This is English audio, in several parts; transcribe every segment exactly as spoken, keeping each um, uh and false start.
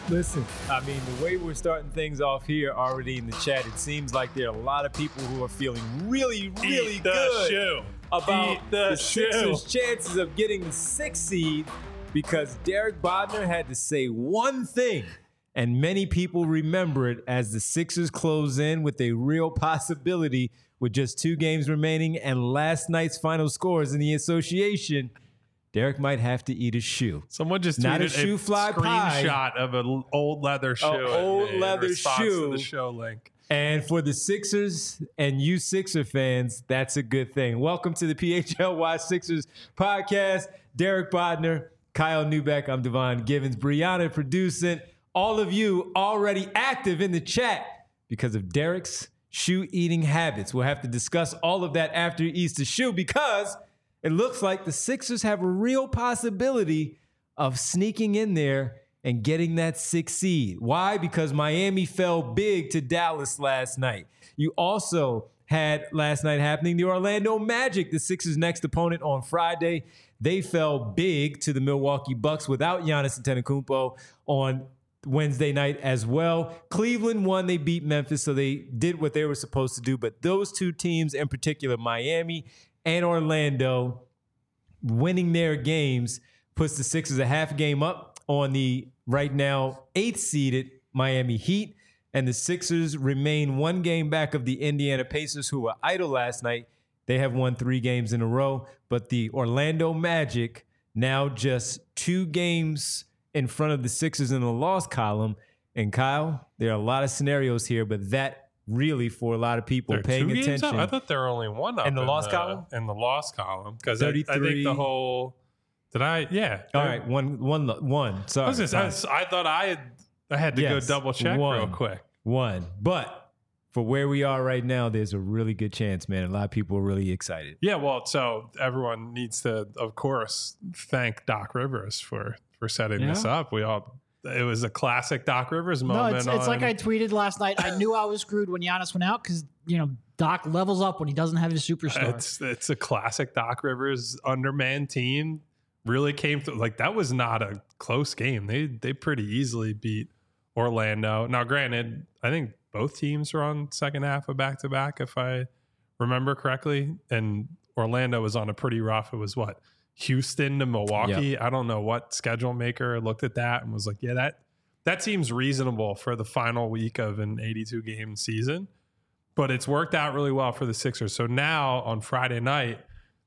Listen, I mean, the way we're starting things off here already in the chat, it seems like there are a lot of people who are feeling really, really Eat the good shoe. about Eat the the shoe. Sixers' chances of getting the sixth seed because Derek Bodner had to say one thing, and many people remember it as the Sixers close in with a real possibility with just two games remaining and last night's final scores in the association. Derek might have to eat a shoe. Someone just Not tweeted a shoe fly screenshot pie. of an old leather shoe. An old in leather response shoe. To the show link. And for the Sixers and you Sixer fans, that's a good thing. Welcome to the P H L Y Sixers podcast. Derek Bodner, Kyle Newbeck, I'm Devon Givens, Brianna producing. All of you already active in the chat because of Derek's shoe eating habits. We'll have to discuss all of that after he eats the shoe because it looks like the Sixers have a real possibility of sneaking in there and getting that sixth seed. Why? Because Miami fell big to Dallas last night. You also had last night happening the Orlando Magic, the Sixers' next opponent on Friday. They fell big to the Milwaukee Bucks without Giannis Antetokounmpo on Wednesday night as well. Cleveland won. They beat Memphis, so they did what they were supposed to do. But those two teams in particular, Miami and Orlando, winning their games puts the Sixers a half game up on the right now eighth seeded Miami Heat. And the Sixers remain one game back of the Indiana Pacers, who were idle last night. They have won three games in a row. But the Orlando Magic now just two games in front of the Sixers in the loss column. And Kyle, there are a lot of scenarios here, but that really, for a lot of people They're paying two games attention. up? I thought there were only one up In the loss column? In the loss column, because I, I thirty-three think the whole. Did I? Yeah. All right, one, one, one. Sorry, I, was just, I, was- I thought I had. I had to Yes, go double check one. real quick. one. But for where we are right now, there's a really good chance, man. A lot of people are really excited. Yeah, well, so everyone needs to, of course, thank Doc Rivers for for setting Yeah. this up. We all. It was a classic Doc Rivers No, moment. it's, it's like on- I tweeted last night. I knew I was screwed when Giannis went out because, you know, Doc levels up when he doesn't have his superstar. It's it's a classic Doc Rivers undermanned team. Really came through. Like, that was not a close game. They they pretty easily beat Orlando. Now, granted, I think both teams were on second half of back to back, if I remember correctly. And Orlando was on a pretty rough. It was what, Houston to Milwaukee. Yep. I don't know what schedule maker looked at that and was like, yeah, that that seems reasonable for the final week of an eighty-two game season. But it's worked out really well for the Sixers. So now on Friday night,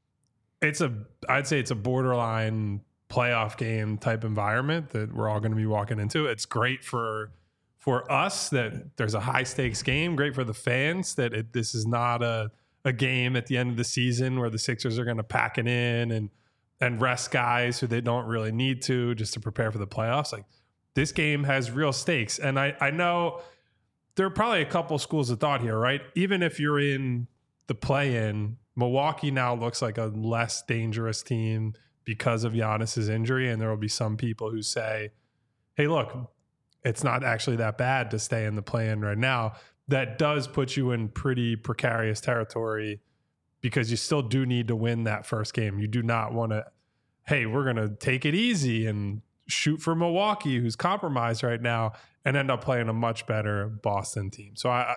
it's a, I'd say it's a borderline playoff game type environment that we're all going to be walking into. It's great for for us that there's a high stakes game. Great for the fans that it, this is not a a game at the end of the season where the Sixers are going to pack it in and and rest guys who they don't really need to just to prepare for the playoffs. Like, this game has real stakes, and I I know there are probably a couple schools of thought here, right? Even if you're in the play-in, Milwaukee now looks like a less dangerous team because of Giannis's injury, and there will be some people who say, hey, look, it's not actually that bad to stay in the play-in right now. That does put you in pretty precarious territory because you still do need to win that first game. You do not want to, hey, we're going to take it easy and shoot for Milwaukee, who's compromised right now, and end up playing a much better Boston team. So I,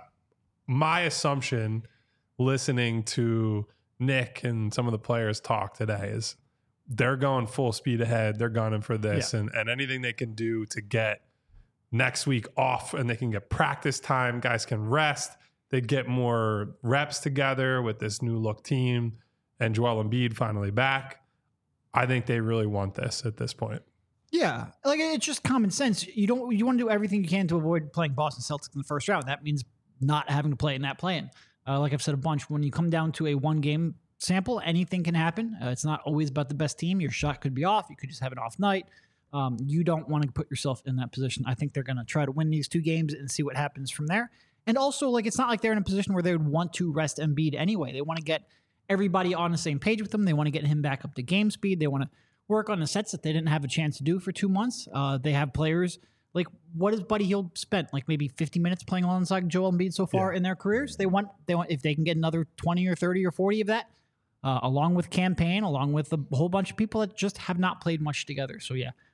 my assumption, listening to Nick and some of the players talk today, is they're going full speed ahead. They're gunning for this, yeah. and, and anything they can do to get next week off, and they can get practice time. Guys can rest. They get more reps together with this new look team, and Joel Embiid finally back. I think they really want this at this point. Yeah, like, it's just common sense. You don't you want to do everything you can to avoid playing Boston Celtics in the first round. That means not having to play in that play-in. Uh, like I've said a bunch, when you come down to a one-game sample, anything can happen. Uh, it's not always about the best team. Your shot could be off. You could just have an off night. Um, you don't want to put yourself in that position. I think they're going to try to win these two games and see what happens from there. And also, like, it's not like they're in a position where they would want to rest Embiid anyway. They want to get everybody on the same page with them. They want to get him back up to game speed. They want to work on the sets that they didn't have a chance to do for two months. Uh, they have players like, what has Buddy Hield spent? Like maybe fifty minutes playing alongside Joel Embiid so far yeah. in their careers. They want they want if they can get another twenty or thirty or forty of that, uh, along with campaign, along with a whole bunch of people that just have not played much together. So yeah,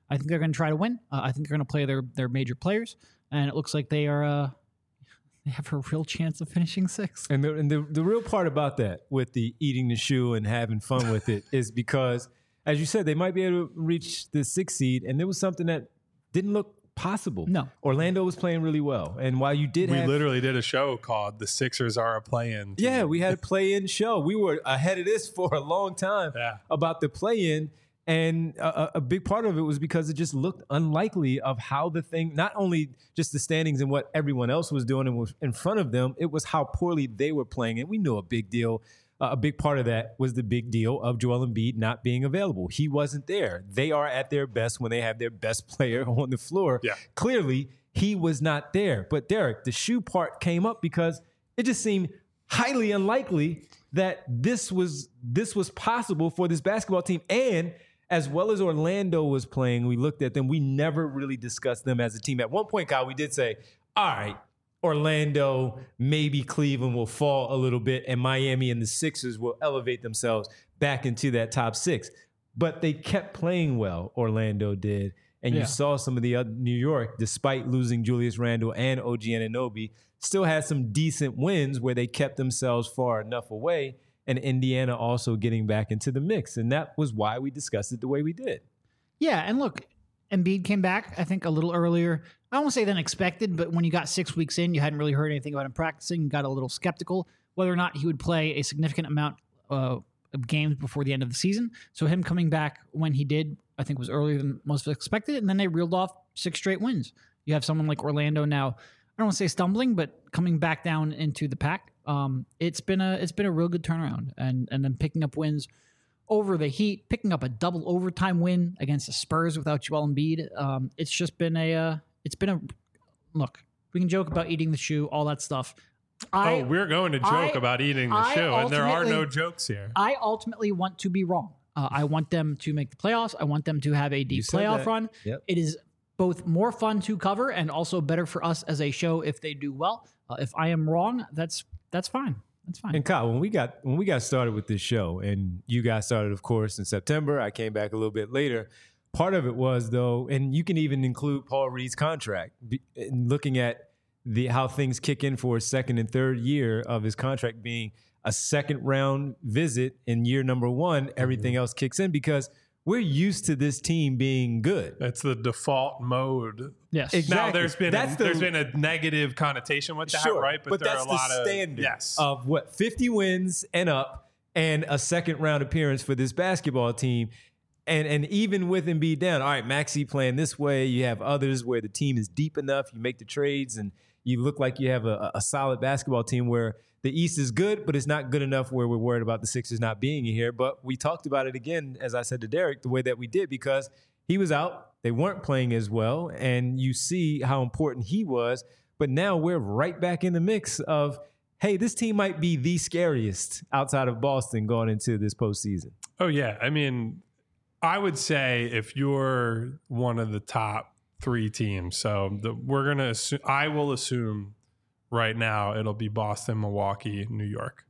I think they're going to try to win. Uh, I think they're going to play their their major players, and it looks like they are. Uh, they have a real chance of finishing sixth. And the and the, the real part about that, with the eating the shoe and having fun with it, is because, as you said, they might be able to reach the sixth seed, and there was something that didn't look possible. No. Orlando was playing really well. And while you did We have... literally did a show called The Sixers Are a Play-In. Yeah, we had a play-in show. We were ahead of this for a long time Yeah. about the play-in. And a, a big part of it was because it just looked unlikely of how the thing, not only just the standings and what everyone else was doing and was in front of them, it was how poorly they were playing. And we knew a big deal. Uh, a big part of that was the big deal of Joel Embiid not being available. He wasn't there. They are at their best when they have their best player on the floor. Yeah. Clearly, he was not there. But Derek, the shoe part came up because it just seemed highly unlikely that this was this was possible for this basketball team. And as well as Orlando was playing, we looked at them. We never really discussed them as a team. At one point, Kyle, we did say, all right, Orlando, maybe Cleveland will fall a little bit, and Miami and the Sixers will elevate themselves back into that top six. But they kept playing well, Orlando did. And Yeah. you saw some of the other New York, despite losing Julius Randle and O G Anunoby, still had some decent wins where they kept themselves far enough away, and Indiana also getting back into the mix. And that was why we discussed it the way we did. Yeah, and look, Embiid came back, I think, a little earlier. I won't say than expected, but when you got six weeks in, you hadn't really heard anything about him practicing. You got a little skeptical whether or not he would play a significant amount uh, of games before the end of the season. So him coming back when he did, I think, was earlier than most expected. And then they reeled off six straight wins. You have someone like Orlando now, I don't want to say stumbling, but coming back down into the pack. Um, it's been a it's been a real good turnaround, and and then picking up wins over the Heat, picking up a double overtime win against the Spurs without Joel Embiid. Um, it's just been a, uh, it's been a, look, we can joke about eating the shoe, all that stuff. I, oh, we're going to joke I- about eating the I shoe, and there are no ultimately- jokes here. I ultimately want to be wrong. Uh, I want them to make the playoffs. I want them to have a deep said playoff that. run. Yep. It is both more fun to cover and also better for us as a show if they do well. Uh, if I am wrong, that's that's fine. That's fine. And Kyle, when we got when we got started with this show, and you got started, of course, in September. I came back a little bit later. Part of it was, though, and you can even include Paul Reed's contract, be- and looking at the how things kick in for his second and third year of his contract being a second round visit in year number one. Everything else kicks in because we're used to this team being good. That's the default mode. yes. Exactly. Now there's been That's a, the- there's been a negative connotation with that, right? But, there that's are a the lot standard of yes. of what fifty wins and up, and a second round appearance for this basketball team. And and even with Embiid down, all right, Maxey playing this way. You have others where the team is deep enough. You make the trades, and you look like you have a, a solid basketball team where the East is good, but it's not good enough where we're worried about the Sixers not being here. But we talked about it again, as I said to Derek, the way that we did, because he was out. They weren't playing as well, and you see how important he was. But now we're right back in the mix of, hey, this team might be the scariest outside of Boston going into this postseason. Oh yeah, I mean, I would say if you're one of the top three teams, so the, we're gonna assume, I will assume right now it'll be Boston, Milwaukee, New York.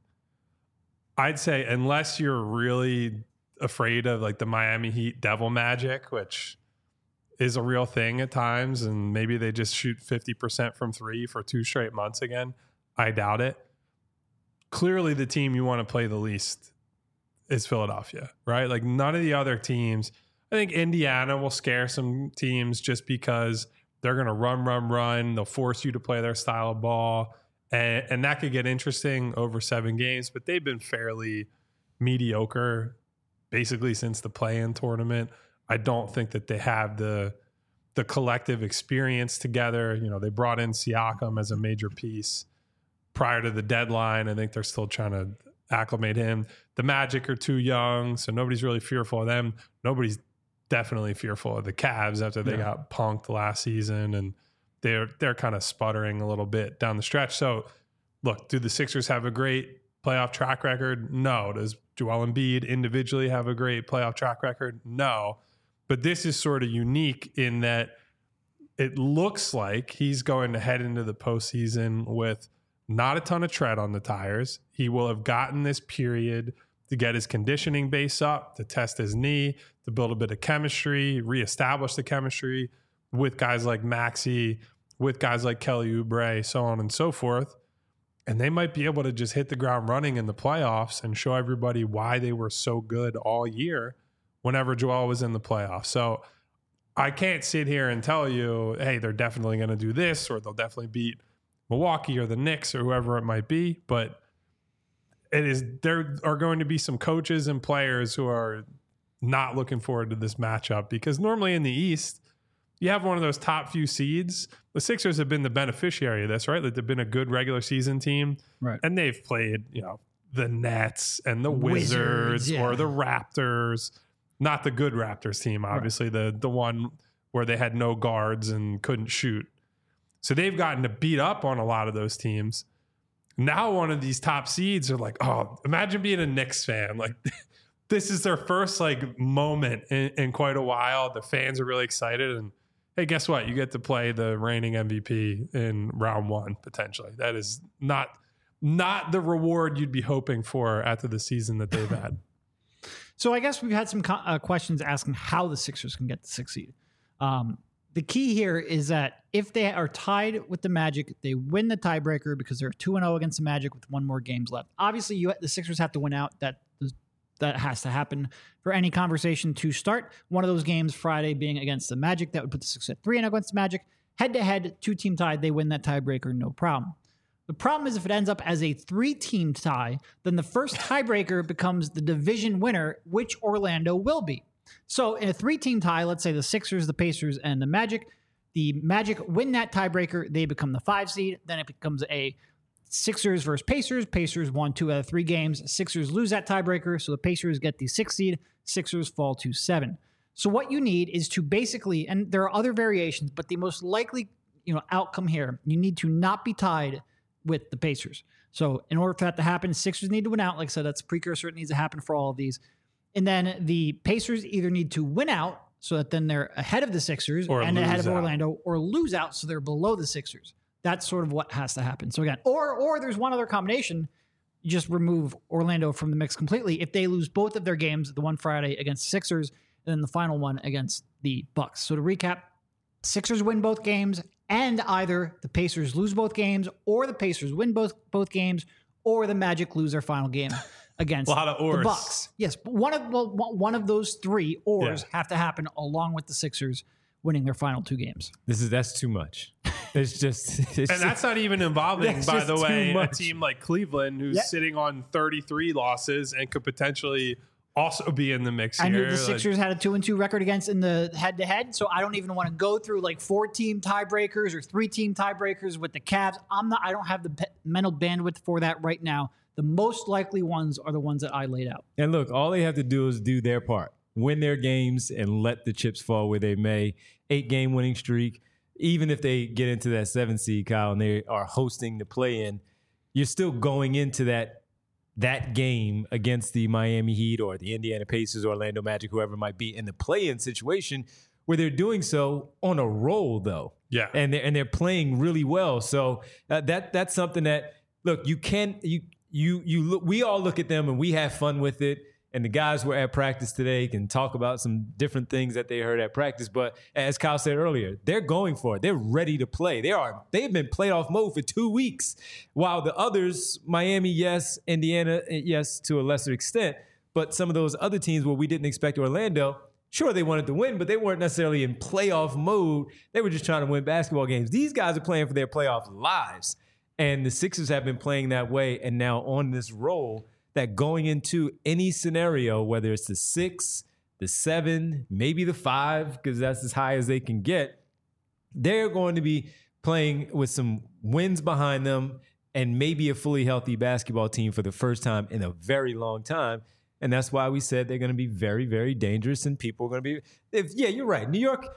I'd say unless you're really afraid of like the Miami Heat devil magic, which is a real thing at times, and maybe they just shoot fifty percent from three for two straight months again, I doubt it. Clearly the team you want to play the least is Philadelphia, right? Like none of the other teams. I think Indiana will scare some teams just because they're going to run, run, run. They'll force you to play their style of ball. And, and that could get interesting over seven games, but they've been fairly mediocre basically since the play-in tournament. I don't think that they have the the collective experience together. You know, they brought in Siakam as a major piece prior to the deadline. I think they're still trying to acclimate him. The Magic are too young, so nobody's really fearful of them. Nobody's definitely fearful of the Cavs after they Yeah. got punked last season, and they're they're kind of sputtering a little bit down the stretch. So, look, do the Sixers have a great playoff track record? No. Does Joel Embiid individually have a great playoff track record? No. But this is sort of unique in that it looks like he's going to head into the postseason with not a ton of tread on the tires. He will have gotten this period to get his conditioning base up, to test his knee, to build a bit of chemistry, reestablish the chemistry with guys like Maxey, with guys like Kelly Oubre, so on and so forth. And they might be able to just hit the ground running in the playoffs and show everybody why they were so good all year whenever Joel was in the playoffs. So I can't sit here and tell you, hey, they're definitely going to do this, or they'll definitely beat Milwaukee or the Knicks or whoever it might be. But it is, there are going to be some coaches and players who are not looking forward to this matchup, because normally in the East, you have one of those top few seeds. The Sixers have been the beneficiary of this, right? Like they've been a good regular season team. Right. And they've played, you know, the Nets and the Wizards, Wizards yeah. or the Raptors. Not the good Raptors team, obviously, right. the the one where they had no guards and couldn't shoot. So they've gotten to beat up on a lot of those teams. Now one of these top seeds are like, oh, imagine being a Knicks fan. Like this is their first like moment in, in quite a while. The fans are really excited, and hey, guess what? You get to play the reigning M V P in round one, potentially. That is not not the reward you'd be hoping for after the season that they've had. So I guess we've had some co- uh, questions asking how the Sixers can get the sixth seed. Um, the key here is that if they are tied with the Magic, they win the tiebreaker because they're two and oh against the Magic with one more games left. Obviously, you the Sixers have to win out. That that has to happen for any conversation to start. One of those games, Friday, being against the Magic, that would put the Sixers at three and oh against the Magic. Head-to-head, two-team tied, they win that tiebreaker, no problem. The problem is if it ends up as a three-team tie, then the first tiebreaker becomes the division winner, which Orlando will be. So in a three-team tie, let's say the Sixers, the Pacers, and the Magic, the Magic win that tiebreaker, they become the five seed. Then it becomes a Sixers versus Pacers. Pacers won two out of three games. Sixers lose that tiebreaker, so the Pacers get the sixth seed. Sixers fall to seven. So what you need is to basically, and there are other variations, but the most likely, you know, outcome here, you need to not be tied with the Pacers. So in order for that to happen, Sixers need to win out. Like I said, that's a precursor. It needs to happen for all of these. And then the Pacers either need to win out so that then they're ahead of the Sixers or and ahead of out. Orlando, or lose out so they're below the Sixers. That's sort of what has to happen. So again, or or there's one other combination. You just remove Orlando from the mix completely. If they lose both of their games, the one Friday against the Sixers and then the final one against the Bucks. So to recap, Sixers win both games, and either the Pacers lose both games, or the Pacers win both both games, or the Magic lose their final game against a lot of ors. the Bucks. Yes, but one of well, one of those three ors Yeah. have to happen along with the Sixers winning their final two games. This is that's too much. It's just, it's And just- that's not even involving, That's by just the too way, a much. team like Cleveland who's Yeah. sitting on thirty-three losses and could potentially also be in the mix I knew here. the Like, Sixers had a two and two record against in the head to head, so I don't even want to go through like four team tiebreakers or three team tiebreakers with the Cavs. I'm not. I don't have the pe- mental bandwidth for that right now. The most likely ones are the ones that I laid out. And look, all they have to do is do their part, win their games, and let the chips fall where they may. Eight game winning streak. Even if they get into that seven seed, Kyle, and they are hosting the play-in, you're still going into that that game against the Miami Heat or the Indiana Pacers, Orlando Magic, whoever it might be, in the play-in situation where they're doing so on a roll, though. Yeah. and they're and they're playing really well. So uh, that that's something that look you can you you you look. We all look at them and we have fun with it. And the guys were at practice today can talk about some different things that they heard at practice. But as Kyle said earlier, they're going for it. They're ready to play. They are. They've been playoff mode for two weeks, while the others, Miami, yes, Indiana, yes, to a lesser extent. But some of those other teams where we didn't expect Orlando, sure, they wanted to win, but they weren't necessarily in playoff mode. They were just trying to win basketball games. These guys are playing for their playoff lives. And the Sixers have been playing that way and now on this roll that going into any scenario, whether it's the six, the seven, maybe the five, because that's as high as they can get, they're going to be playing with some wins behind them and maybe a fully healthy basketball team for the first time in a very long time. And that's why we said they're going to be very, very dangerous and people are going to be, if, yeah, you're right. New York,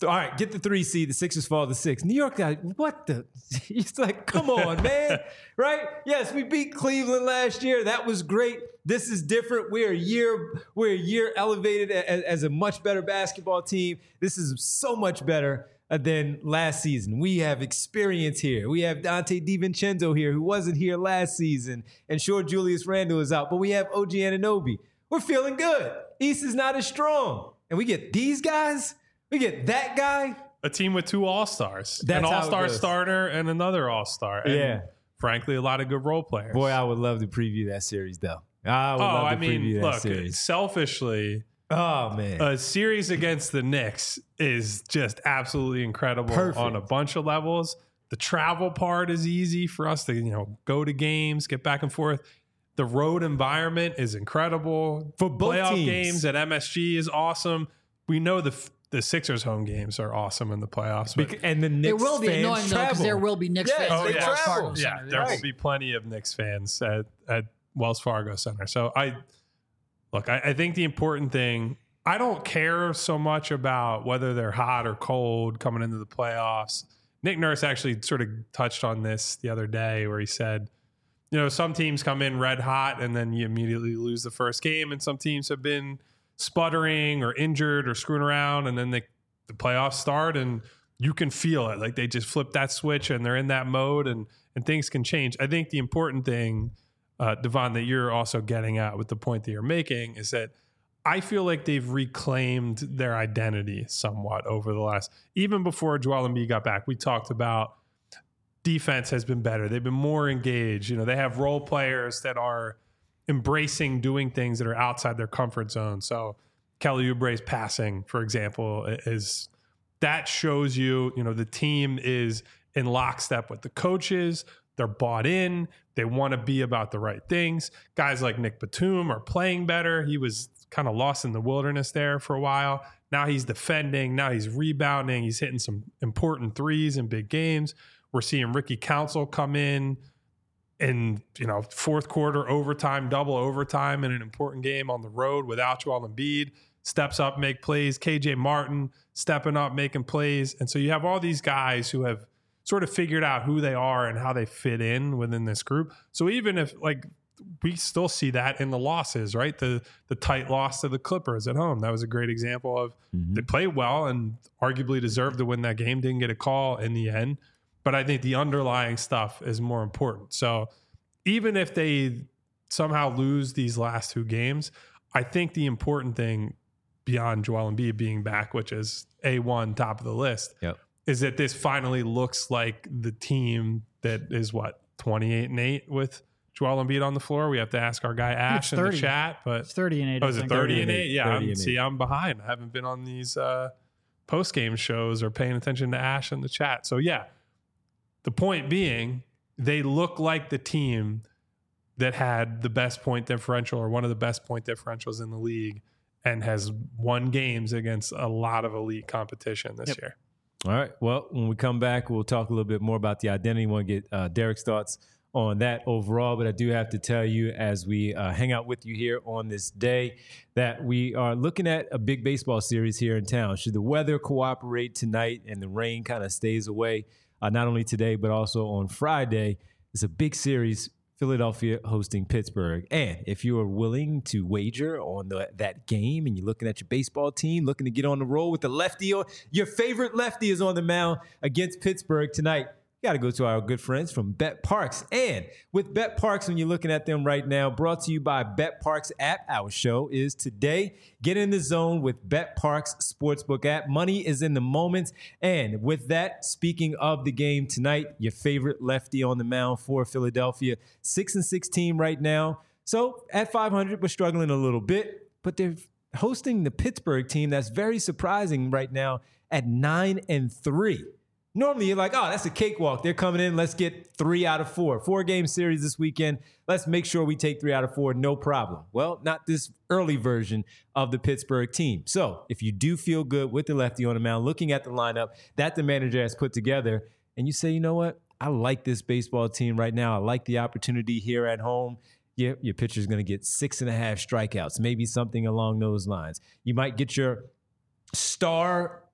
All right, get the three seed. The Sixers fall to six. New York got what the? It's like, come on, man, right? Yes, we beat Cleveland last year. That was great. This is different. We're a year, we're a year elevated as, as a much better basketball team. This is so much better than last season. We have experience here. We have Dante DiVincenzo here, who wasn't here last season, and sure, Julius Randle is out, but we have O G Anunoby. We're feeling good. East is not as strong, and we get these guys. We get that guy. A team with two All-Stars. That's an how it All-Star goes. starter and another All-Star. And Yeah. frankly, a lot of good role players. Boy, I would love to preview that series, though. I would oh, love to I mean, preview that look, series. selfishly, Oh, man. a series against the Knicks is just absolutely incredible Perfect. on a bunch of levels. The travel part is easy for us to, you know, go to games, get back and forth. The road environment is incredible. For both Playoff teams. games at M S G is awesome. We know the the Sixers home games are awesome in the playoffs. But Bec- and the Knicks It will be fans annoying though because travel. there will be Knicks Yes, fans. Oh, at yeah. Wells Fargo Travel. yeah, Center. there Right. will be plenty of Knicks fans at, at Wells Fargo Center. So I look, I, I think the important thing, I don't care so much about whether they're hot or cold coming into the playoffs. Nick Nurse actually sort of touched on this the other day where he said, you know, some teams come in red hot and then you immediately lose the first game, and some teams have been sputtering or injured or screwing around, and then they, the playoffs start and you can feel it. Like they just flip that switch and they're in that mode, and and things can change. I think the important thing, uh, Devon, that you're also getting at with the point that you're making is that I feel like they've reclaimed their identity somewhat over the last, even before Joel Embiid got back. We talked about defense has been better. They've been more engaged. You know, they have role players that are embracing doing things that are outside their comfort zone. So Kelly Oubre's passing, for example, is that shows you, you know, the team is in lockstep with the coaches. They're bought in. They want to be about the right things. Guys like Nick Batum are playing better. He was kind of lost in the wilderness there for a while. Now he's defending. Now he's rebounding. He's hitting some important threes in big games. We're seeing Ricky Council come in in, you know, fourth quarter overtime, double overtime in an important game on the road without Joel Embiid. Steps up, make plays. K J Martin stepping up, making plays. And so you have all these guys who have sort of figured out who they are and how they fit in within this group. So even if, like, we still see that in the losses, right? The the tight loss to the Clippers at home. That was a great example of Mm-hmm. they played well and arguably deserved to win that game. Didn't get a call in the end. But I think the underlying stuff is more important. So even if they somehow lose these last two games, I think the important thing beyond Joel Embiid being back, which is A one, top of the list, Yep. is that this finally looks like the team that is what, twenty-eight and eight with Joel Embiid on the floor. We have to ask our guy Ash It's in the thirty. chat, but It's thirty and eight. oh, I is it think. thirty and thirty eight? Yeah, thirty I'm, and see, eight. I'm behind. I haven't been on these uh, post game shows or paying attention to Ash in the chat. So yeah, the point being, they look like the team that had the best point differential or one of the best point differentials in the league and has won games against a lot of elite competition this Yep. year. All right. Well, when we come back, we'll talk a little bit more about the identity. Want to get uh, Derek's thoughts on that overall, but I do have to tell you as we uh, hang out with you here on this day that we are looking at a big baseball series here in town. Should the weather cooperate tonight and the rain kind of stays away, uh, not only today, but also on Friday, it's a big series, Philadelphia hosting Pittsburgh. And if you are willing to wager on the, that game and you're looking at your baseball team, looking to get on the roll with the lefty, or your favorite lefty is on the mound against Pittsburgh tonight, you got to go to our good friends from Bet Parks. And with Bet Parks, when you're looking at them right now, brought to you by Bet Parks app, our show is today. Get in the zone with Bet Parks Sportsbook app. Money is in the moments. And with that, speaking of the game tonight, your favorite lefty on the mound for Philadelphia, six and six team right now. So at five hundred, we're struggling a little bit, but they're hosting the Pittsburgh team that's very surprising right now at nine and three. Normally, you're like, oh, that's a cakewalk. They're coming in. Let's get three out of four. Four-game series this weekend. Let's make sure we take three out of four. No problem. Well, not this early version of the Pittsburgh team. So if you do feel good with the lefty on the mound, looking at the lineup that the manager has put together, and you say, you know what? I like this baseball team right now. I like the opportunity here at home. Yeah, your pitcher's going to get six and a half strikeouts, maybe something along those lines. You might get your star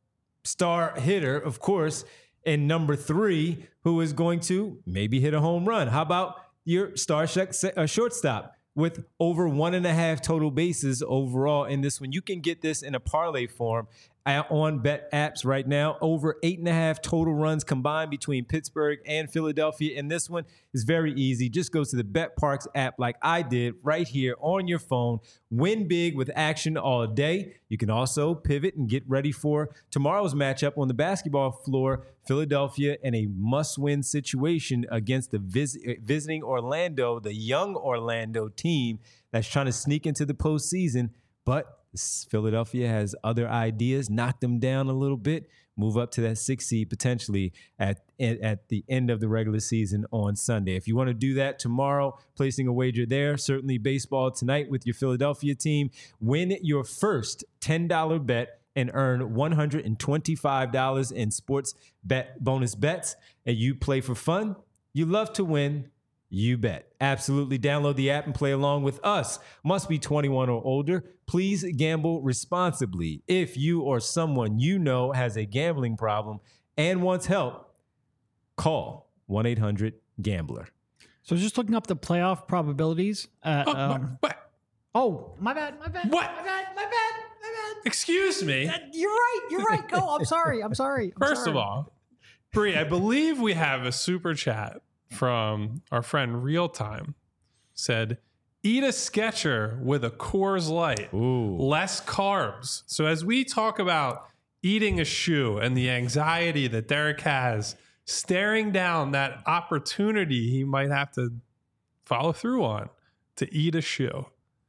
star hitter, of course, and number three, who is going to maybe hit a home run. How about your star sh- uh, shortstop with over one and a half total bases overall in this one? You can get this in a parlay form on bet apps right now. Over eight and a half total runs combined between Pittsburgh and Philadelphia. And this one is very easy. Just go to the BetParx app like I did right here on your phone. Win big with action all day. You can also pivot and get ready for tomorrow's matchup on the basketball floor. Philadelphia in a must-win situation against the vis- visiting Orlando, the young Orlando team that's trying to sneak into the postseason. But Philadelphia has other ideas, knock them down a little bit, move up to that six seed potentially at, at, at the end of the regular season on Sunday. If you want to do that tomorrow, placing a wager there, certainly baseball tonight with your Philadelphia team. Win your first ten dollars bet and earn one hundred twenty-five dollars in sports bet bonus bets. And you play for fun. You love to win. You bet. Absolutely. Download the app and play along with us. Must be twenty-one or older. Please gamble responsibly. If you or someone you know has a gambling problem and wants help, call one eight hundred gambler. So just looking up the playoff probabilities. Uh, Oh, um, what? oh, my bad, my bad. What? My bad, my bad, my bad. Excuse me. Uh, You're right. You're right. Go. I'm sorry. I'm sorry. I'm First sorry. of all, Bree, I believe we have a super chat from our friend Real Time. Said, eat a Sketcher with a Coors Light. Ooh. Less carbs. So as we talk about eating a shoe and the anxiety that Derek has, staring down that opportunity he might have to follow through on to eat a shoe.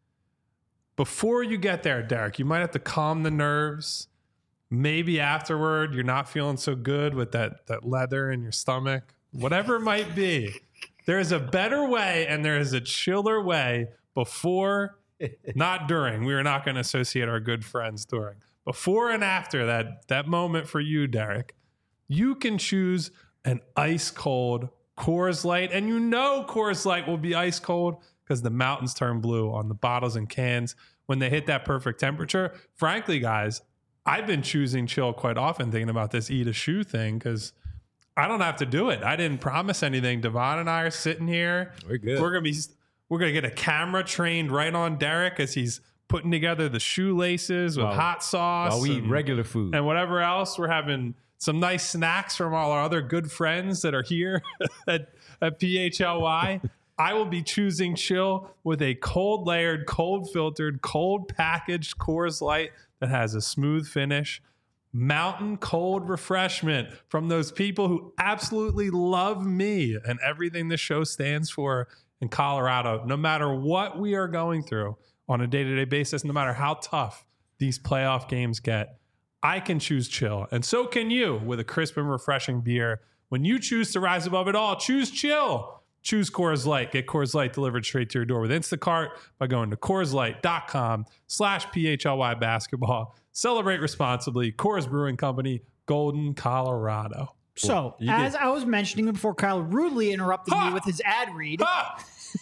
Before you get there, Derek, you might have to calm the nerves. Maybe afterward, you're not feeling so good with that, that leather in your stomach. Whatever it might be, there is a better way and there is a chiller way before, not during. We are not going to associate our good friends during. Before and after that, that moment for you, Derek, you can choose an ice cold Coors Light. And you know Coors Light will be ice cold because the mountains turn blue on the bottles and cans when they hit that perfect temperature. Frankly, guys, I've been choosing chill quite often thinking about this eat a shoe thing because I don't have to do it. I didn't promise anything. Devon and I are sitting here. We're good. We're gonna be. We're gonna get a camera trained right on Derek as he's putting together the shoelaces with While- hot sauce. While we eat and, regular food. and whatever else. We're having some nice snacks from all our other good friends that are here at, at P H L Y. I will be choosing chill with a cold layered, cold filtered, cold packaged Coors Light that has a smooth finish. Mountain cold refreshment from those people who absolutely love me and everything this show stands for in Colorado. No matter what we are going through on a day-to-day basis, no matter how tough these playoff games get, I can choose chill. And so can you with a crisp and refreshing beer. When you choose to rise above it all, choose chill. Choose Coors Light. Get Coors Light delivered straight to your door with Instacart by going to CoorsLight.com slash PHLY basketball. Celebrate responsibly. Coors Brewing Company, Golden, Colorado. So, You as get- I was mentioning before Kyle rudely interrupted Ha! me with his ad read, Ah!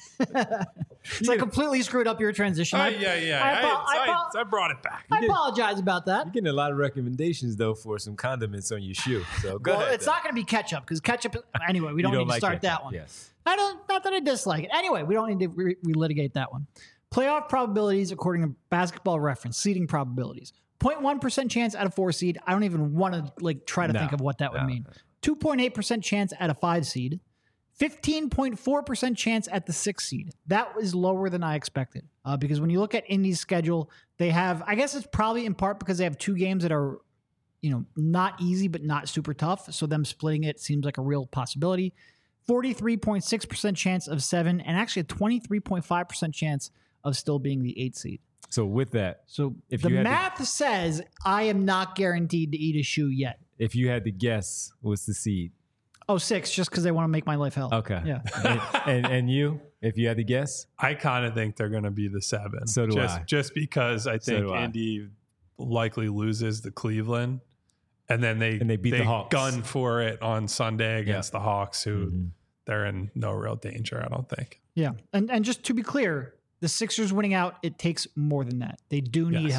so I completely screwed up your transition. Oh, I, yeah, yeah. I, I, apo- I, I, apo- I brought it back. I apologize about that. You're getting a lot of recommendations, though, for some condiments on your shoe. So go Well, ahead. it's though. not going to be ketchup because ketchup. Anyway, we don't, You need to like start ketchup, that one. Yes. I don't. Not that I dislike it. Anyway, we don't need to re- relitigate that one. Playoff probabilities according to Basketball Reference. Seeding probabilities. zero point one percent chance at a four seed. I don't even want to like try to No, think of what that would no. mean. two point eight percent chance at a five seed. fifteen point four percent chance at the six seed. That was lower than I expected. Uh, because when you look at Indy's schedule, they have, I guess it's probably in part because they have two games that are, you know, not easy, but not super tough. So them splitting it seems like a real possibility. forty-three point six percent chance of seven, and actually a twenty-three point five percent chance of still being the eight seed. So with that, So If the you had to- math says I am not guaranteed to eat a shoe yet. if you had to guess, what's the seed? Oh, six, just because they want to make my life hell. Okay. Yeah. and, and and you, if you had to guess, I kind of think they're going to be the seven. So do just, I. Just because I So think do I. Indy likely loses to Cleveland. And then they, And they beat the Hawks. gun for it on Sunday against the Hawks, who Mhm. they're in no real danger, I don't think. Yeah. And and just to be clear, the Sixers winning out, it takes more than that. They do need Yes. help.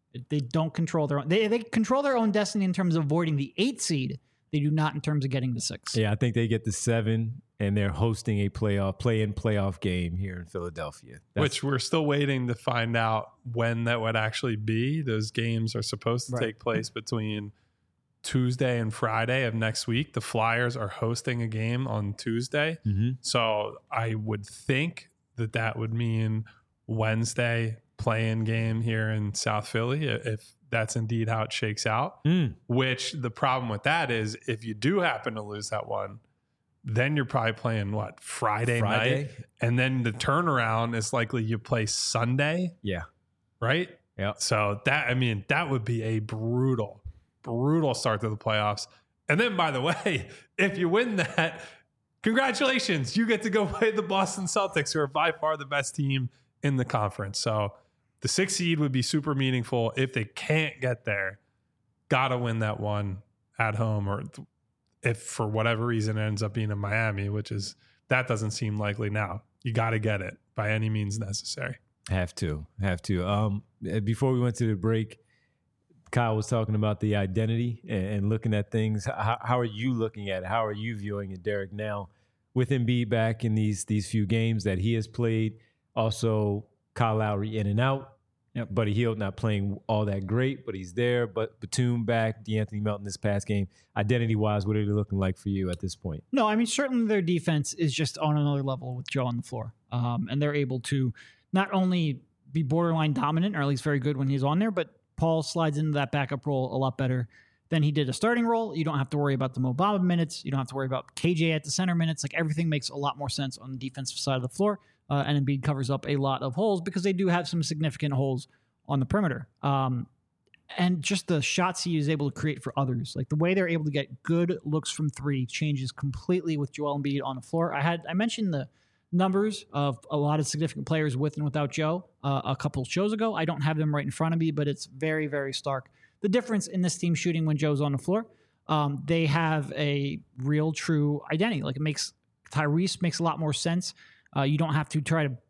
They don't control their own. They they control their own destiny in terms of avoiding the eight seed. They do not in terms of getting the six. Yeah, I think they get the seven, and they're hosting a playoff play-in playoff game here in Philadelphia. That's, Which we're still waiting to find out when that would actually be. Those games are supposed to Right. take place between Tuesday and Friday of next week. The Flyers are hosting a game on Tuesday. Mhm. So I would think that that would mean Wednesday play-in game here in South Philly, if that's indeed how it shakes out. Mm. Which the problem with that is if you do happen to lose that one, then you're probably playing what, Friday, Friday? night? And then the turnaround is likely you play Sunday, Yeah. right? Yeah. So that, I mean, that would be a brutal, brutal start to the playoffs. And then, by the way, if you win that, congratulations, you get to go play the Boston Celtics, who are by far the best team in the conference. So the sixth seed would be super meaningful. If they can't get there, gotta win that one at home, or if for whatever reason it ends up being in Miami, which is, that doesn't seem likely now. You got to get it by any means necessary. Have to, have to. Um, before we went to the break, Kyle was talking about the identity and, and looking at things. How, how are you looking at it? How are you viewing it, Derek, now with Embiid back in these these few games that he has played? Also, Kyle Lowry in and out. Yep. Buddy Hield not playing all that great, but he's there. But Batum back, DeAnthony Melton this past game. Identity-wise, what are they looking like for you at this point? No, I mean, certainly their defense is just on another level with Joe on the floor. Um, and they're able to not only be borderline dominant, or at least very good when he's on there, but Paul slides into that backup role a lot better than he did a starting role. You don't have to worry about the Mo Bamba minutes. You don't have to worry about K J at the center minutes. Like, everything makes a lot more sense on the defensive side of the floor. Uh, and Embiid covers up a lot of holes because they do have some significant holes on the perimeter. Um, and just the shots he is able to create for others, like the way they're able to get good looks from three, changes completely with Joel Embiid on the floor. I had I mentioned the numbers of a lot of significant players with and without Joe uh, a couple shows ago. I don't have them right in front of me, but it's very, very stark. The difference in this team shooting when Joe's on the floor, um, they have a real, true identity. Like, it makes Tyrese makes a lot more sense. Uh, you don't have to try to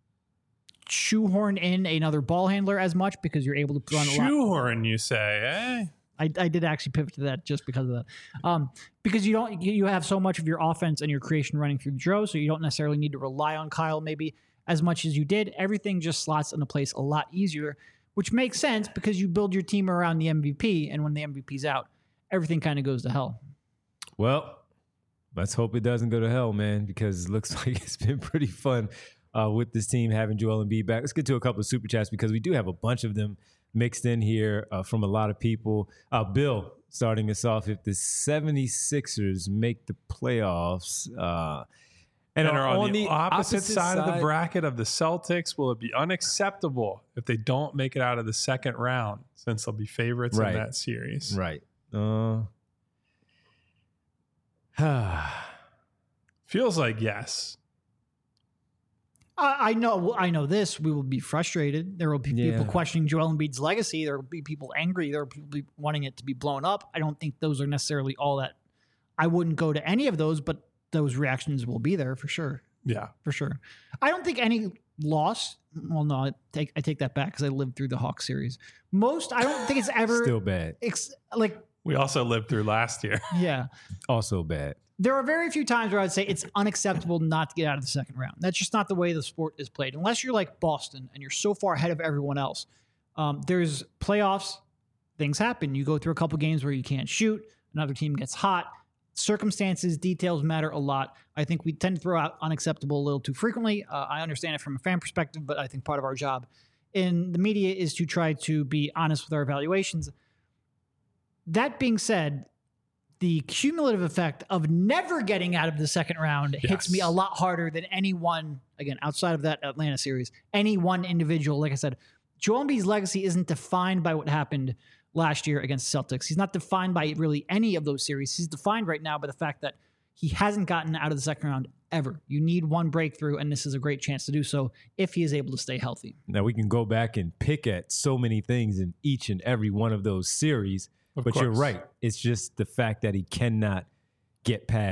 shoehorn in another ball handler as much because you're able to run a lot. Shoehorn, you say, eh? I, I did actually pivot to that just because of that. Um, because you don't you have so much of your offense and your creation running through Joe, so you don't necessarily need to rely on Kyle maybe as much as you did. Everything just slots into place a lot easier, which makes sense because you build your team around the M V P, and when the M V P's out, everything kind of goes to hell. Well, let's hope it doesn't go to hell, man, because it looks like it's been pretty fun uh, with this team having Joel Embiid back. Let's get to a couple of super chats because we do have a bunch of them mixed in here uh, from a lot of people. Uh, Bill, starting us off, if the seventy-sixers make the playoffs uh, and, And are on, on the, the opposite, opposite side, of the side- bracket of the Celtics, will it be unacceptable if they don't make it out of the second round, since they'll be favorites Right. in that series? Right. Uh, Feels like yes. I, I know I know this. We will be frustrated. There will be Yeah. people questioning Joel Embiid's legacy. There will be people angry. There will be people wanting it to be blown up. I don't think those are necessarily all that. I wouldn't go to any of those, but those reactions will be there for sure. Yeah. For sure. I don't think any loss. Well, no, I take I take that back because I lived through the Hawks series. Most, I don't think it's ever still bad. ex, like We also lived through last year. yeah. Also bad. There are very few times where I'd say it's unacceptable not to get out of the second round. That's just not the way the sport is played. Unless you're like Boston and you're so far ahead of everyone else. Um, there's playoffs. Things happen. You go through a couple games where you can't shoot. Another team gets hot. Circumstances, details matter a lot. I think we tend to throw out unacceptable a little too frequently. Uh, I understand it from a fan perspective, but I think part of our job in the media is to try to be honest with our evaluations. That being said, the cumulative effect of never getting out of the second round Yes. hits me a lot harder than any one, again, outside of that Atlanta series, any one individual. Like I said, Joel Embiid's legacy isn't defined by what happened last year against the Celtics. He's not defined by really any of those series. He's defined right now by the fact that he hasn't gotten out of the second round ever. You need one breakthrough, and this is a great chance to do so if he is able to stay healthy. Now, we can go back and pick at so many things in each and every one of those series. Of But you're course. right. It's just the fact that he cannot get past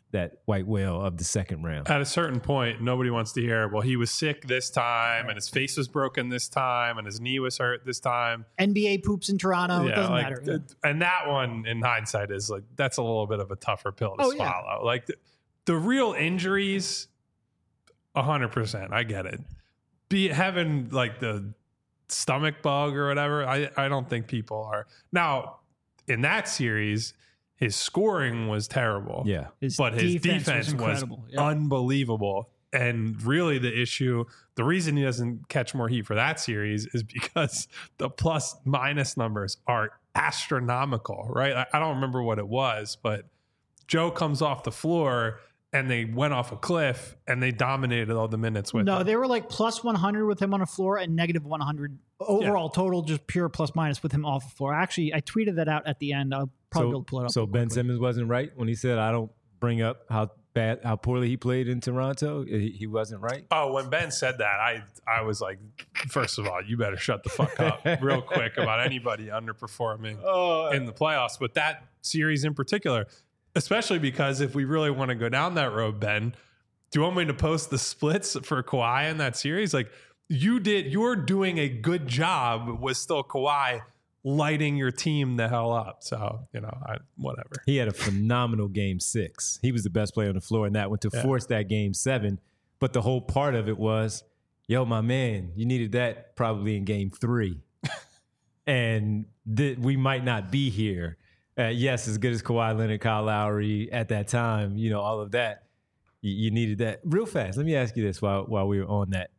that white whale of the second round. At a certain point, nobody wants to hear, well, he was sick this time and his face was broken this time and his knee was hurt this time. N B A poops in Toronto. It doesn't like, matter. Yeah. And that one, in hindsight, is like, that's a little bit of a tougher pill to Oh, yeah. swallow. Like the, the real injuries, one hundred percent. I get it. Be having like the stomach bug or whatever, I, I don't think people are. Now, in that series, his scoring was terrible. Yeah. His but his defense defense, was was, incredible. Yeah. unbelievable. And really the issue, the reason he doesn't catch more heat for that series is because the plus minus numbers are astronomical, right? I, I don't remember what it was, but Joe comes off the floor and they went off a cliff and they dominated all the minutes with No, him. they were like plus one hundred with him on the floor and negative one hundred overall total, just pure plus minus with him off the floor. Actually, I tweeted that out at the end. I'll probably So, be able to pull it up. so real Ben quickly. Simmons wasn't right when he said, I don't bring up how bad, how poorly he played in Toronto. He, he wasn't right. Oh, when Ben said that, I I was like, first of all, you better shut the fuck up real quick about anybody underperforming Oh, in the playoffs. But that series in particular, especially because if we really want to go down that road, Ben, do you want me to post the splits for Kawhi in that series? Like you did, you're doing a good job with still Kawhi lighting your team the hell up. So, you know, I, whatever. he had a phenomenal game six. He was the best player on the floor in that one to Yeah. force that game seven. But the whole part of it was, yo, my man, you needed that probably in game three. and th- we might not be here. Uh, yes, as good as Kawhi Leonard, Kyle Lowry at that time, you know, all of that, you, you needed that. Real fast, let me ask you this while while we were on that.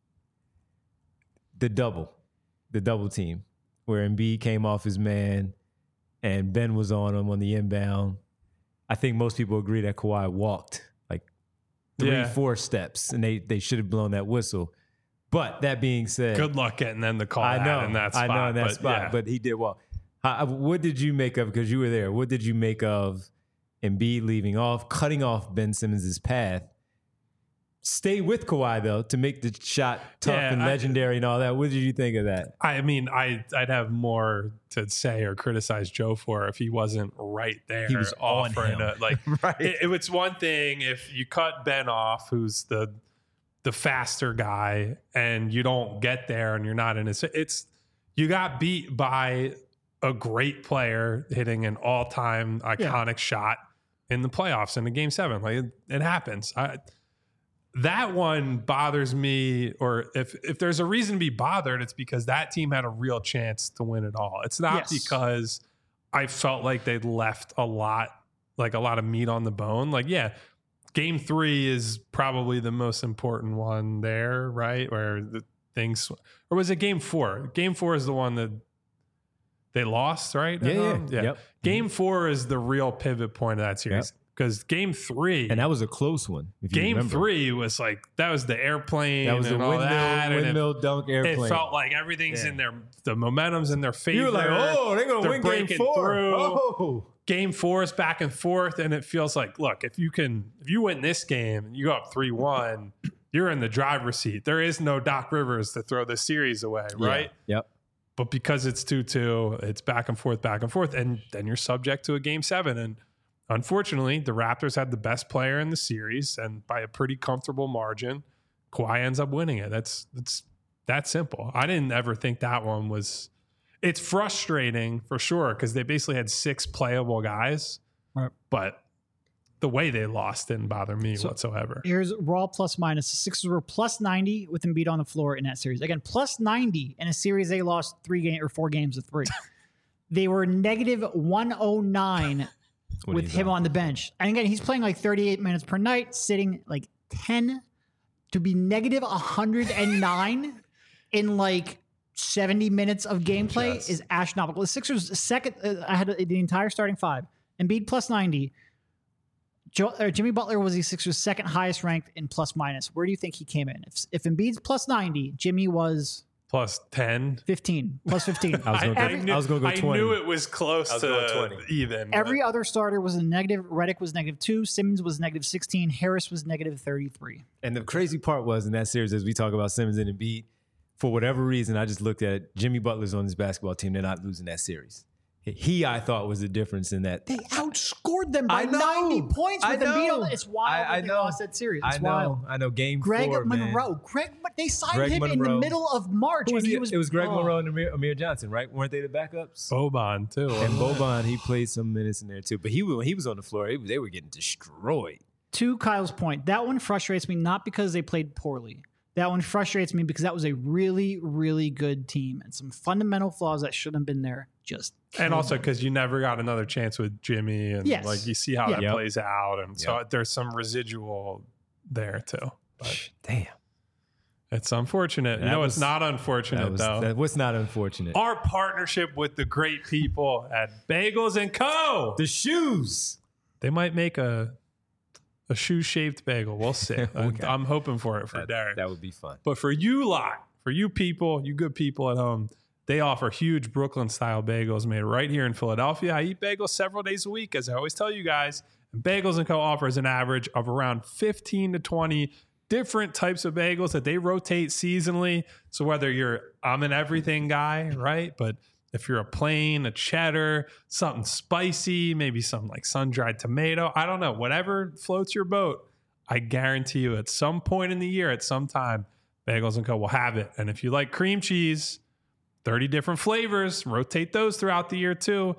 The double, the double team, where Embiid came off his man and Ben was on him on the inbound. I think most people agree that Kawhi walked like three, Yeah. four steps, and they they should have blown that whistle. But that being said, Good luck getting them to call I that know, in that spot. I know in that but spot, yeah. but he did well. How, what did you make of, because you were there, what did you make of Embiid leaving off, cutting off Ben Simmons' path? Stay with Kawhi, though, to make the shot tough Yeah, and I- legendary and all that. What did you think of that? I mean, I, I'd have more to say or criticize Joe for if he wasn't right there. He was on offering him. to- like, Right. it, it was one thing if you cut Ben off, who's the the faster guy, and you don't get there and you're not in his. It's you got beat by a great player hitting an all time iconic shot in the playoffs in the game seven. Like it, it happens. I, that one bothers me, or if if there's a reason to be bothered, it's because that team had a real chance to win it all. It's not Yes. because I felt like they left a lot, like a lot of meat on the bone. Like, yeah, game three is probably the most important one there, right? Where the things, or was it game four? Game four is the one that they lost, right? Yeah, Um, yeah. Yep. Game four is the real pivot point of that series because game three, And that was a close one. If you game remember. three was like that was the airplane. that was the and all windmill, that, and it- windmill dunk airplane. It felt like everything's Yeah. in their the momentum's in their favor. you were like, oh, they're going to They're win game breaking four. through. Oh. Game four is back and forth, and it feels like, look, if you can, if you win this game and you go up three one, you're in the driver's seat. There is no Doc Rivers to throw the series away, right? Yeah. Yep. But because it's two two, it's back and forth, back and forth, and then you're subject to a game seven. And unfortunately, the Raptors had the best player in the series, and by a pretty comfortable margin, Kawhi ends up winning it. That's that's that simple. I didn't ever think that one was. It's frustrating for sure because they basically had six playable guys, Right. but the way they lost didn't bother me So- whatsoever. Here's raw plus minus. The Sixers were plus ninety with Embiid on the floor in that series. Again, plus ninety in a series they lost three game or four games of three. They were negative one oh nine What with do you him got? on the bench. And again, he's playing like thirty-eight minutes per night, sitting like ten to be negative one hundred nine in like seventy minutes of gameplay Just- is astronomical. The Sixers second, uh, I had the entire starting five. Embiid plus ninety. Joe, or Jimmy Butler was the Sixers' second highest ranked in plus minus. Where do you think he came in? If, if Embiid's plus ninety, Jimmy was Plus ten. fifteen, plus fifteen. I was gonna go- Every- I was gonna go I twenty. knew it was close I was to going twenty. even. Every other starter was a negative. Reddick was negative two. Simmons was negative sixteen. Harris was negative thirty-three. And the crazy part was in that series, as we talk about Simmons and Embiid, for whatever reason, I just looked at Jimmy Butler's on this basketball team. They're not losing that series. He, I thought, was the difference in that. They outscored them by I know. ninety points I with Embiid. know. on- It's wild I- that I they know. lost that series. It's I know. wild. I know. Game Greg four, man. Monroe. Greg, they signed Greg him in the Monroe. middle of March. Who was and he he? was, It was Greg oh. Monroe and Amir, Amir Johnson, right? Weren't they the backups? Boban too. And Boban, he played some minutes in there too. But he when he was on the floor, it- they were getting destroyed. To Kyle's point, that one frustrates me not because they played poorly. That one frustrates me because that was a really, really good team and some fundamental flaws that shouldn't have been there. Just And killed also them. because you never got another chance with Jimmy, and Yes. like you see how Yeah. that Yep. plays out, and so Yep. there's some residual there too. But Damn. it's unfortunate. You That know, was- it's not unfortunate That was, though. that was not unfortunate. Our partnership with the great people at Bagels and Co. The shoes. They might make a a shoe shaped bagel. We'll see. Okay. I'm hoping for it for That, Derek. that would be fun. But for you lot, for you people, you good people at home, they offer huge Brooklyn style bagels made right here in Philadelphia. I eat bagels several days a week, as I always tell you guys. And Bagels and Co. offers an average of around fifteen to twenty different types of bagels that they rotate seasonally. So whether you're, I'm an everything guy, right? But if you're a plain, a cheddar, something spicy, maybe some like sun-dried tomato, I don't know, whatever floats your boat, I guarantee you at some point in the year, at some time, Bagels and Co. will have it. And if you like cream cheese, thirty different flavors, rotate those throughout the year too.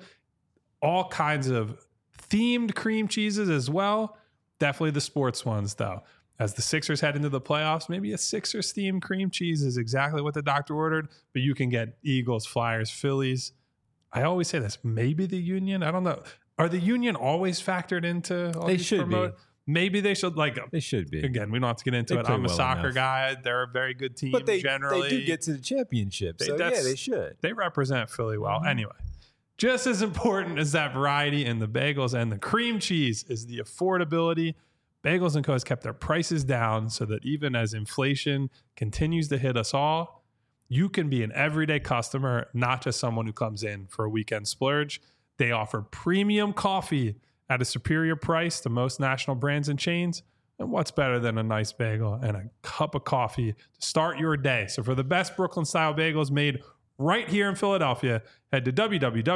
All kinds of themed cream cheeses as well. Definitely the sports ones though. As the Sixers head into the playoffs, maybe a Sixers themed cream cheese is exactly what the doctor ordered, but you can get Eagles, Flyers, Phillies. I always say this, maybe the Union. I don't know. Are the Union always factored into all They these should be. promote? Maybe they should, like, They should be. again, we don't have to get into They it. play I'm a well soccer enough. guy. They're a very good team But they, generally. they do get to the championship. They- So yeah, that's- they should. They represent Philly well. Mm-hmm. Anyway, just as important as that variety in the bagels and the cream cheese is the affordability. Bagels and Co. has kept their prices down so that even as inflation continues to hit us all, you can be an everyday customer, not just someone who comes in for a weekend splurge. They offer premium coffee at a superior price to most national brands and chains. And what's better than a nice bagel and a cup of coffee to start your day? So for the best Brooklyn style bagels made right here in Philadelphia, head to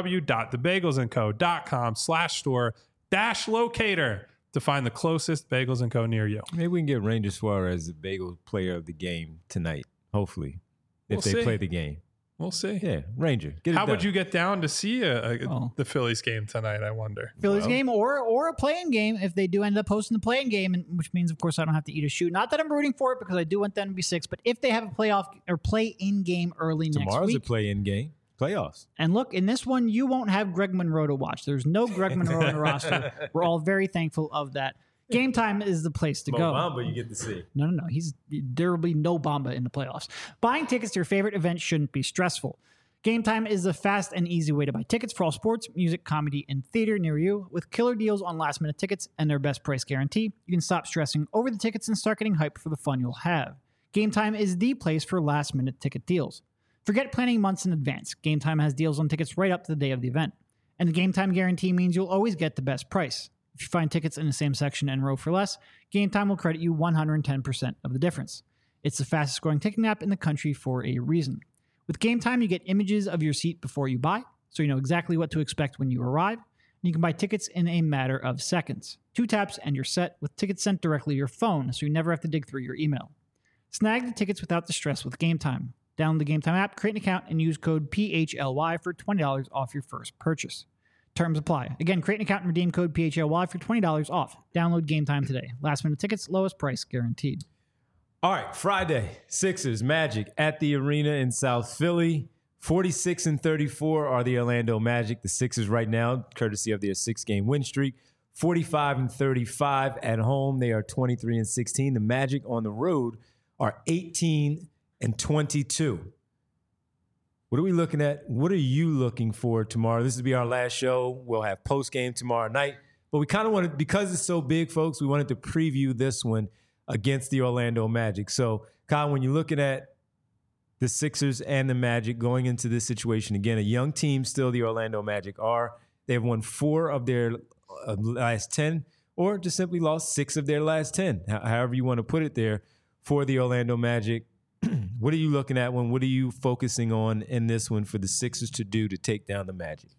www.thebagelsandco.com slash store dash locator to find the closest Bagels and Co. near you. Maybe we can get Ranger Suarez the bagel player of the game tonight. Hopefully, if We'll they see. play the game. We'll see. Yeah, Ranger. Get it How would done. you get down to see a, a, Oh. the Phillies game tonight, I wonder? Phillies Well- game or or a playing game if they do end up hosting the playing game, and which means of course I don't have to eat a shoe. Not that I'm rooting for it because I do want them to be six, but if they have a playoff or play in game early next Tomorrow's a week, play-in game. Playoffs. and look in this one you won't have Greg Monroe to watch. There's no Greg Monroe on the roster. We're all very thankful of that. Game time is the place to Mo go. Bamba you get to see. No, no, no. He's there will be no Bamba in the playoffs. Buying tickets to your favorite event shouldn't be stressful. Game Time is the fast and easy way to buy tickets for all sports, music, comedy, and theater near you. With killer deals on last minute tickets and their best price guarantee, you can stop stressing over the tickets and start getting hyped for the fun you'll have. Game Time is the place for last minute ticket deals. Forget planning months in advance. Game Time has deals on tickets right up to the day of the event. And the Game Time guarantee means you'll always get the best price. If you find tickets in the same section and row for less, Game Time will credit you one hundred ten percent of the difference. It's the fastest growing ticketing app in the country for a reason. With Game Time, you get images of your seat before you buy, so you know exactly what to expect when you arrive. And you can buy tickets in a matter of seconds. Two taps and you're set with tickets sent directly to your phone, so you never have to dig through your email. Snag the tickets without the stress with Game Time. Download the Game Time app, create an account, and use code P H L Y for twenty dollars off your first purchase. Terms apply. Again, create an account and redeem code P H L Y for twenty dollars off. Download Game Time today. Last minute tickets, lowest price guaranteed. All right, Friday, Sixers, Magic at the arena in South Philly. forty-six and thirty-four are the Orlando Magic. The Sixers right now, courtesy of their six-game win streak. forty-five and thirty-five at home. They are twenty-three and sixteen. The Magic on the road are eighteen and twenty-two. What are we looking at? What are you looking for tomorrow? This will be our last show. We'll have post-game tomorrow night. But we kind of wanted, because it's so big, folks, we wanted to preview this one against the Orlando Magic. So, Kyle, when you're looking at the Sixers and the Magic going into this situation, again, a young team still the Orlando Magic are. They've won four of their uh, last ten, or just simply lost six of their last ten, however you want to put it there, for the Orlando Magic. What are you looking at when? What are you focusing on in this one for the Sixers to do to take down the Magic?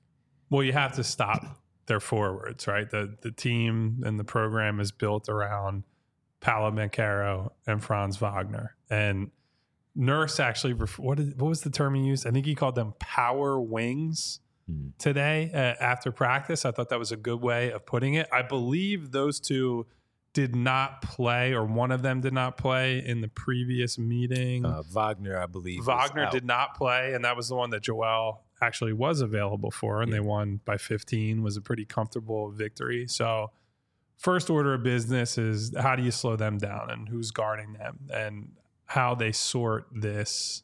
Well, you have to stop their forwards, right? The the team and the program is built around Paolo Banchero and Franz Wagner. And Nurse actually, what, did, what was the term he used? I think he called them power wings hmm. today uh, after practice. I thought that was a good way of putting it. I believe those two did not play, or one of them did not play in the previous meeting. Uh, Wagner, I believe. Wagner did not play, and that was the one that Joel actually was available for, and yeah. they won by fifteen. Was a pretty comfortable victory. So first order of business is how do you slow them down and who's guarding them and how they sort this,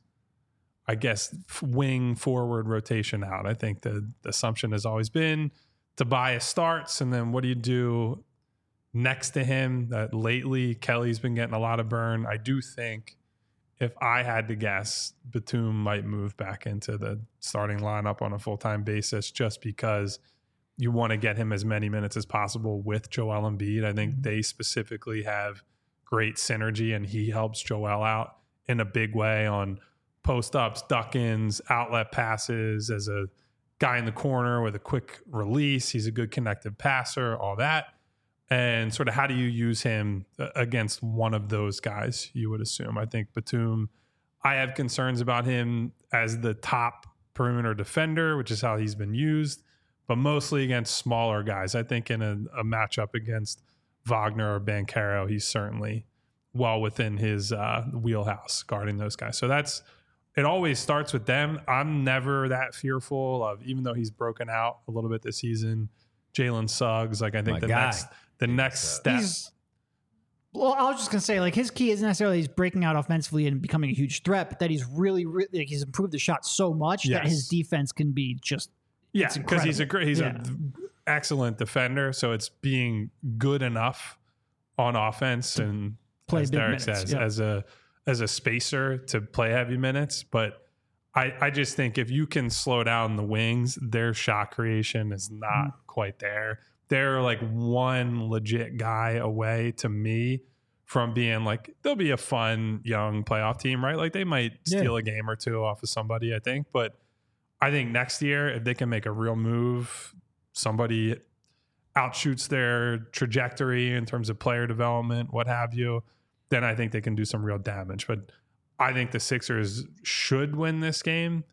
I guess, wing forward rotation out. I think the, the assumption has always been Tobias starts, and then what do you do next to him? That lately Kelly's been getting a lot of burn. I do think if I had to guess, Batum might move back into the starting lineup on a full-time basis just because you want to get him as many minutes as possible with Joel Embiid. I think they specifically have great synergy, and he helps Joel out in a big way on post-ups, duck-ins, outlet passes, as a guy in the corner with a quick release. He's a good connective passer, all that. And sort of how do you use him against one of those guys, you would assume? I think Batum, I have concerns about him as the top perimeter defender, which is how he's been used, but mostly against smaller guys. I think in a, a matchup against Wagner or Banchero, he's certainly well within his uh, wheelhouse guarding those guys. So that's, it always starts with them. I'm never that fearful of, even though he's broken out a little bit this season, Jalen Suggs. Like I think My the guy. next the next step. He's, well, I was just gonna say, like, his key isn't necessarily he's breaking out offensively and becoming a huge threat, but that he's really, really like, he's improved the shot so much Yes. that his defense can be just Yeah, because he's a great, he's Yeah. an excellent defender. So it's being good enough on offense and play as big Derek minutes, says, yeah. as a as a spacer to play heavy minutes. But I, I just think if you can slow down the wings, their shot creation is not Mm-hmm. quite there. They're like one legit guy away to me from being like, they'll be a fun young playoff team, right? Like they might Yeah. steal a game or two off of somebody, I think. But I think next year, if they can make a real move, somebody outshoots their trajectory in terms of player development, what have you, then I think they can do some real damage. But I think the Sixers should win this game.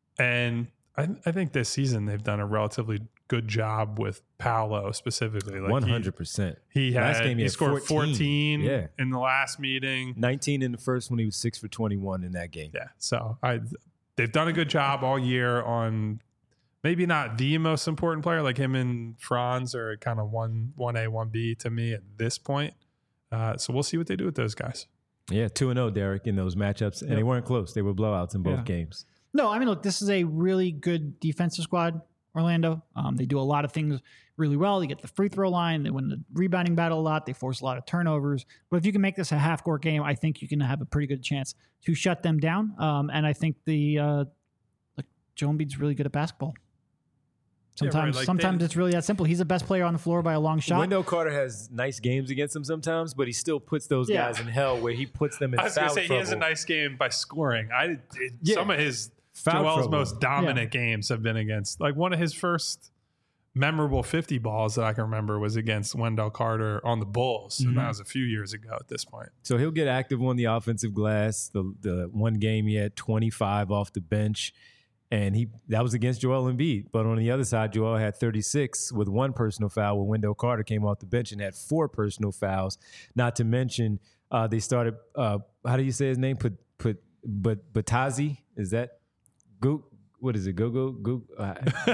And I, I think this season they've done a relatively good job with Paolo specifically. Like one hundred percent. He, he, had, Last game he he had scored fourteen. fourteen Yeah. in the last meeting. nineteen in the first one. He was six for twenty-one in that game. Yeah. So I they've done a good job all year on maybe not the most important player, like him and Franz are kind of one one A, one B to me at this point. Uh, so we'll see what they do with those guys. Yeah, two and zero, Derek, in those matchups, and Yep. they weren't close. They were blowouts in both Yeah. games. No, I mean, look, this is a really good defensive squad, Orlando. Um, they do a lot of things really well. They get the free throw line. They win the rebounding battle a lot. They force a lot of turnovers. But if you can make this a half-court game, I think you can have a pretty good chance to shut them down. Um, and I think the uh, like Joel Embiid's really good at basketball. Yeah, right. Sometimes, Like sometimes they- it's really that simple. He's the best player on the floor by a long shot. Wendell Carter has nice games against him sometimes, but he still puts those Yeah. guys in hell where he puts them in I was foul going to say trouble. he has a nice game by scoring. I it, Yeah. Some of his Foul Joel's trouble. most dominant games have been against, like one of his first memorable fifty balls that I can remember was against Wendell Carter on the Bulls. And Mhm. that was a few years ago at this point. So he'll get active on the offensive glass. The the one game he had twenty-five off the bench, and he that was against Joel Embiid. But on the other side, Joel had thirty-six with one personal foul when Wendell Carter came off the bench and had four personal fouls. Not to mention, uh, they started. Uh, how do you say his name? Put put but Batazi, is that go? What is it? Go go go. Uh,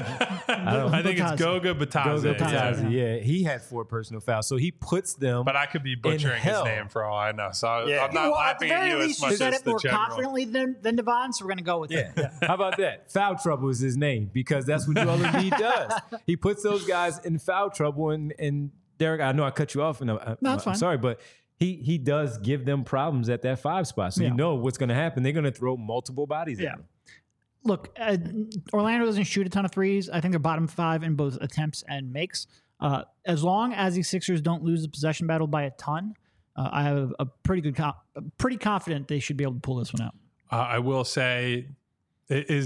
I, don't- think it's Batazi. Goga Bataze. Goga Bataze, yeah. Batazi. Yeah, he had four personal fouls. So he puts them. But I could be butchering his hell. name for all I know. So I- Yeah. I'm not well, at the laughing at very you as least, you much said as it the more general. confidently than, than Devon, so we're going to go with Yeah. it. How about that? Foul trouble is his name because that's what Joel Embiid does. He puts those guys in foul trouble. And, and Derek, I know I cut you off, and I, I, No, it's I'm fine. sorry, but he he does give them problems at that five spot. So Yeah. you know what's going to happen. They're going to throw multiple bodies Yeah. at him. Look, uh, Orlando doesn't shoot a ton of threes. I think they're bottom five in both attempts and makes. Uh, as long as the Sixers don't lose the possession battle by a ton, uh, I have a pretty good, com- pretty confident they should be able to pull this one out. Uh, I will say, i- is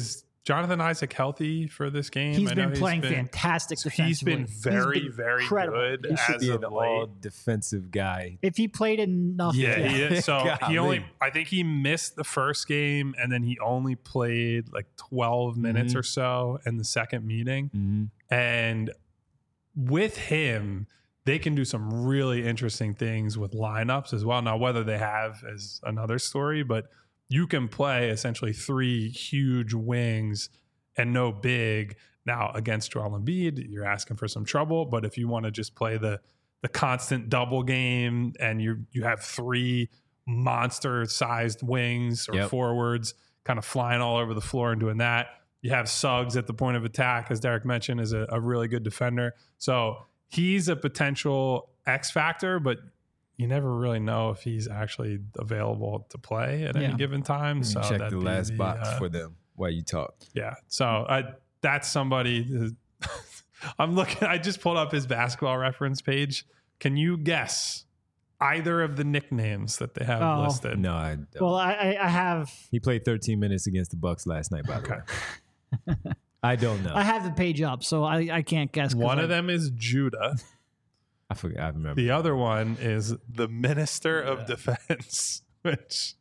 Jonathan Isaac healthy for this game? He's I know been playing been, fantastic He's defensively. been very, been very incredible. good He should as be of an late. all defensive guy. If he played enough, Yeah, yeah. he is. So Golly. he only, I think he missed the first game, and then he only played like twelve minutes Mhm. or so in the second meeting. Mm-hmm. And with him, they can do some really interesting things with lineups as well. Now, whether they have is another story, but you can play essentially three huge wings and no big. Now, against Joel Embiid, you're asking for some trouble. But if you want to just play the the constant double game and you you have three monster-sized wings or Yep. forwards kind of flying all over the floor and doing that, you have Suggs at the point of attack, as Derek mentioned, is a, a really good defender. So he's a potential X factor, but you never really know if he's actually available to play at Yeah. any given time. So Check that'd the be last the, box uh, for them while you talk. yeah. So I, that's somebody. who- I'm looking. I just pulled up his basketball reference page. Can you guess either of the nicknames that they have Oh. listed? No, I don't. Well, I, I, I have He played thirteen minutes against the Bucks last night, by the Okay. way. I don't know. I I, have the page up, so I, I can't guess. 'cause One I- of them is Judah. forgot. I remember. The other one is the Minister of Defense, which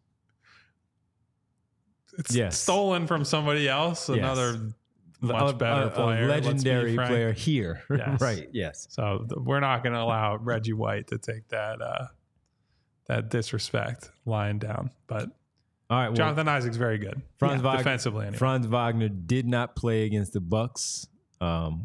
it's Yes. stolen from somebody else, Yes. another much A- better a, a player. let's be legendary frank. player here. Yes. Right. Yes. So th- we're not going to allow Reggie White to take that uh, that disrespect lying down. But All right. Well, Jonathan Isaac's very good Franz, yeah, Wagner, defensively. Anyway. Franz Wagner did not play against the Bucks um,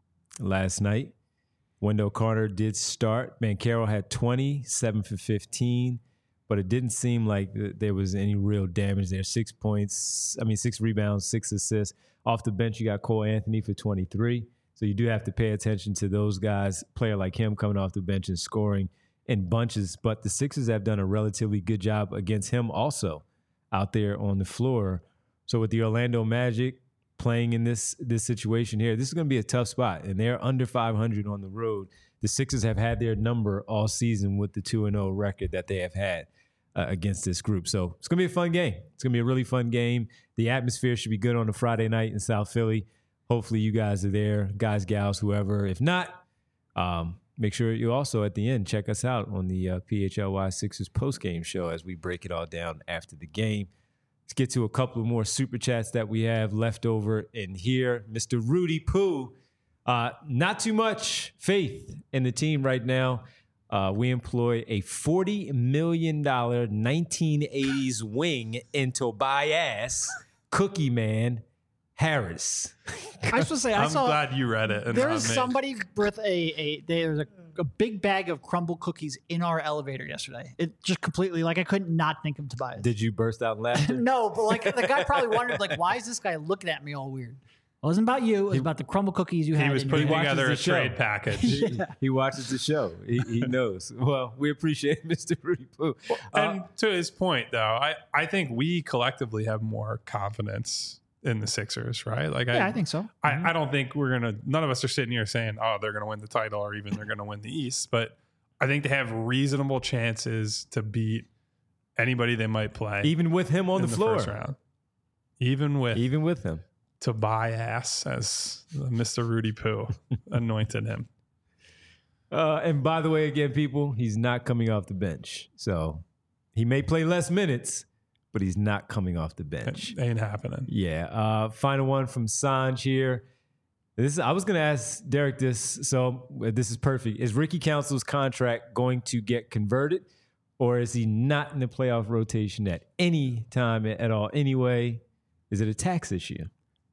last night. Wendell Carter did start. Banchero had twenty, seven for fifteen, but it didn't seem like th- there was any real damage there. Six points, I mean, six rebounds, six assists. Off the bench, you got Cole Anthony for twenty-three. So you do have to pay attention to those guys, player like him coming off the bench and scoring in bunches. But the Sixers have done a relatively good job against him also out there on the floor. So with the Orlando Magic playing in this this situation here, this is going to be a tough spot, and they're under five hundred on the road. The Sixers have had their number all season with the two and oh record that they have had uh, against this group. So it's going to be a fun game. It's going to be a really fun game. The atmosphere should be good on a Friday night in South Philly. Hopefully you guys are there, guys, gals, whoever. If not, um, make sure you also at the end check us out on the uh, P H L Y Sixers postgame show as we break it all down after the game. Let's get to a couple of more super chats that we have left over in here. Mister Rudy Poo, uh, not too much faith in the team right now. Uh, we employ a forty million dollars nineteen eighties wing in Tobias Cookie Man Harris. I was supposed to say, I I'm saw glad you read it. and there not was me. somebody with a, a there's a, a big bag of crumble cookies in our elevator yesterday. It just completely, like, I couldn't not think of Tobias. Did you burst out in laughter? No, but like the guy probably wondered, like, why is this guy looking at me all weird? It wasn't about you. It was about the crumble cookies you had. He was in putting your- watches together the a show. trade package. He, he watches the show. He, he knows. Well, we appreciate Mister Rudy Poo. And to his point, though, I, I think we collectively have more confidence in the Sixers, right? Like, Yeah, I think so. I, I don't think we're gonna. None of us are sitting here saying, "Oh, they're gonna win the title," or even they're gonna win the East. But I think they have reasonable chances to beat anybody they might play, Even with him on in the floor. first round. Even with Even with him. Tobias, as Mister Rudy Poo anointed him. Uh, and by the way, again, people, he's not coming off the bench. So he may play less minutes, but he's not coming off the bench. It ain't happening. Yeah. Uh, final one from Sanj here. This I was going to ask Derek this, so this is perfect. Is Ricky Council's contract going to get converted, or is he not in the playoff rotation at any time at all anyway? Is it a tax issue?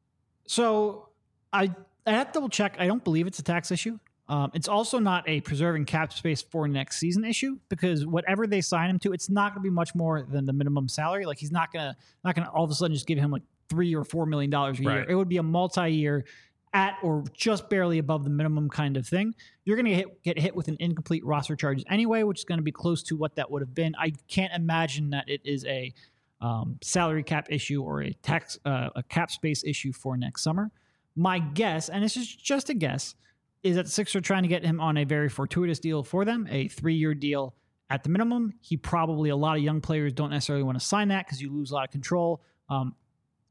So I I have to double check. I don't believe it's a tax issue. Um, it's also not a preserving cap space for next season issue, because whatever they sign him to, it's not going to be much more than the minimum salary. Like, he's not gonna not gonna all of a sudden just give him like three or four million dollars a year. Right. It would be a multi-year at or just barely above the minimum kind of thing. You're going to hit, get hit with an incomplete roster charges anyway, which is going to be close to what that would have been. I can't imagine that it is a um, salary cap issue or a tax uh, a cap space issue for next summer. My guess, and this is just a guess, is that the Sixers are trying to get him on a very fortuitous deal for them, a three-year deal at the minimum. He probably, a lot of young players don't necessarily want to sign that because you lose a lot of control. Um,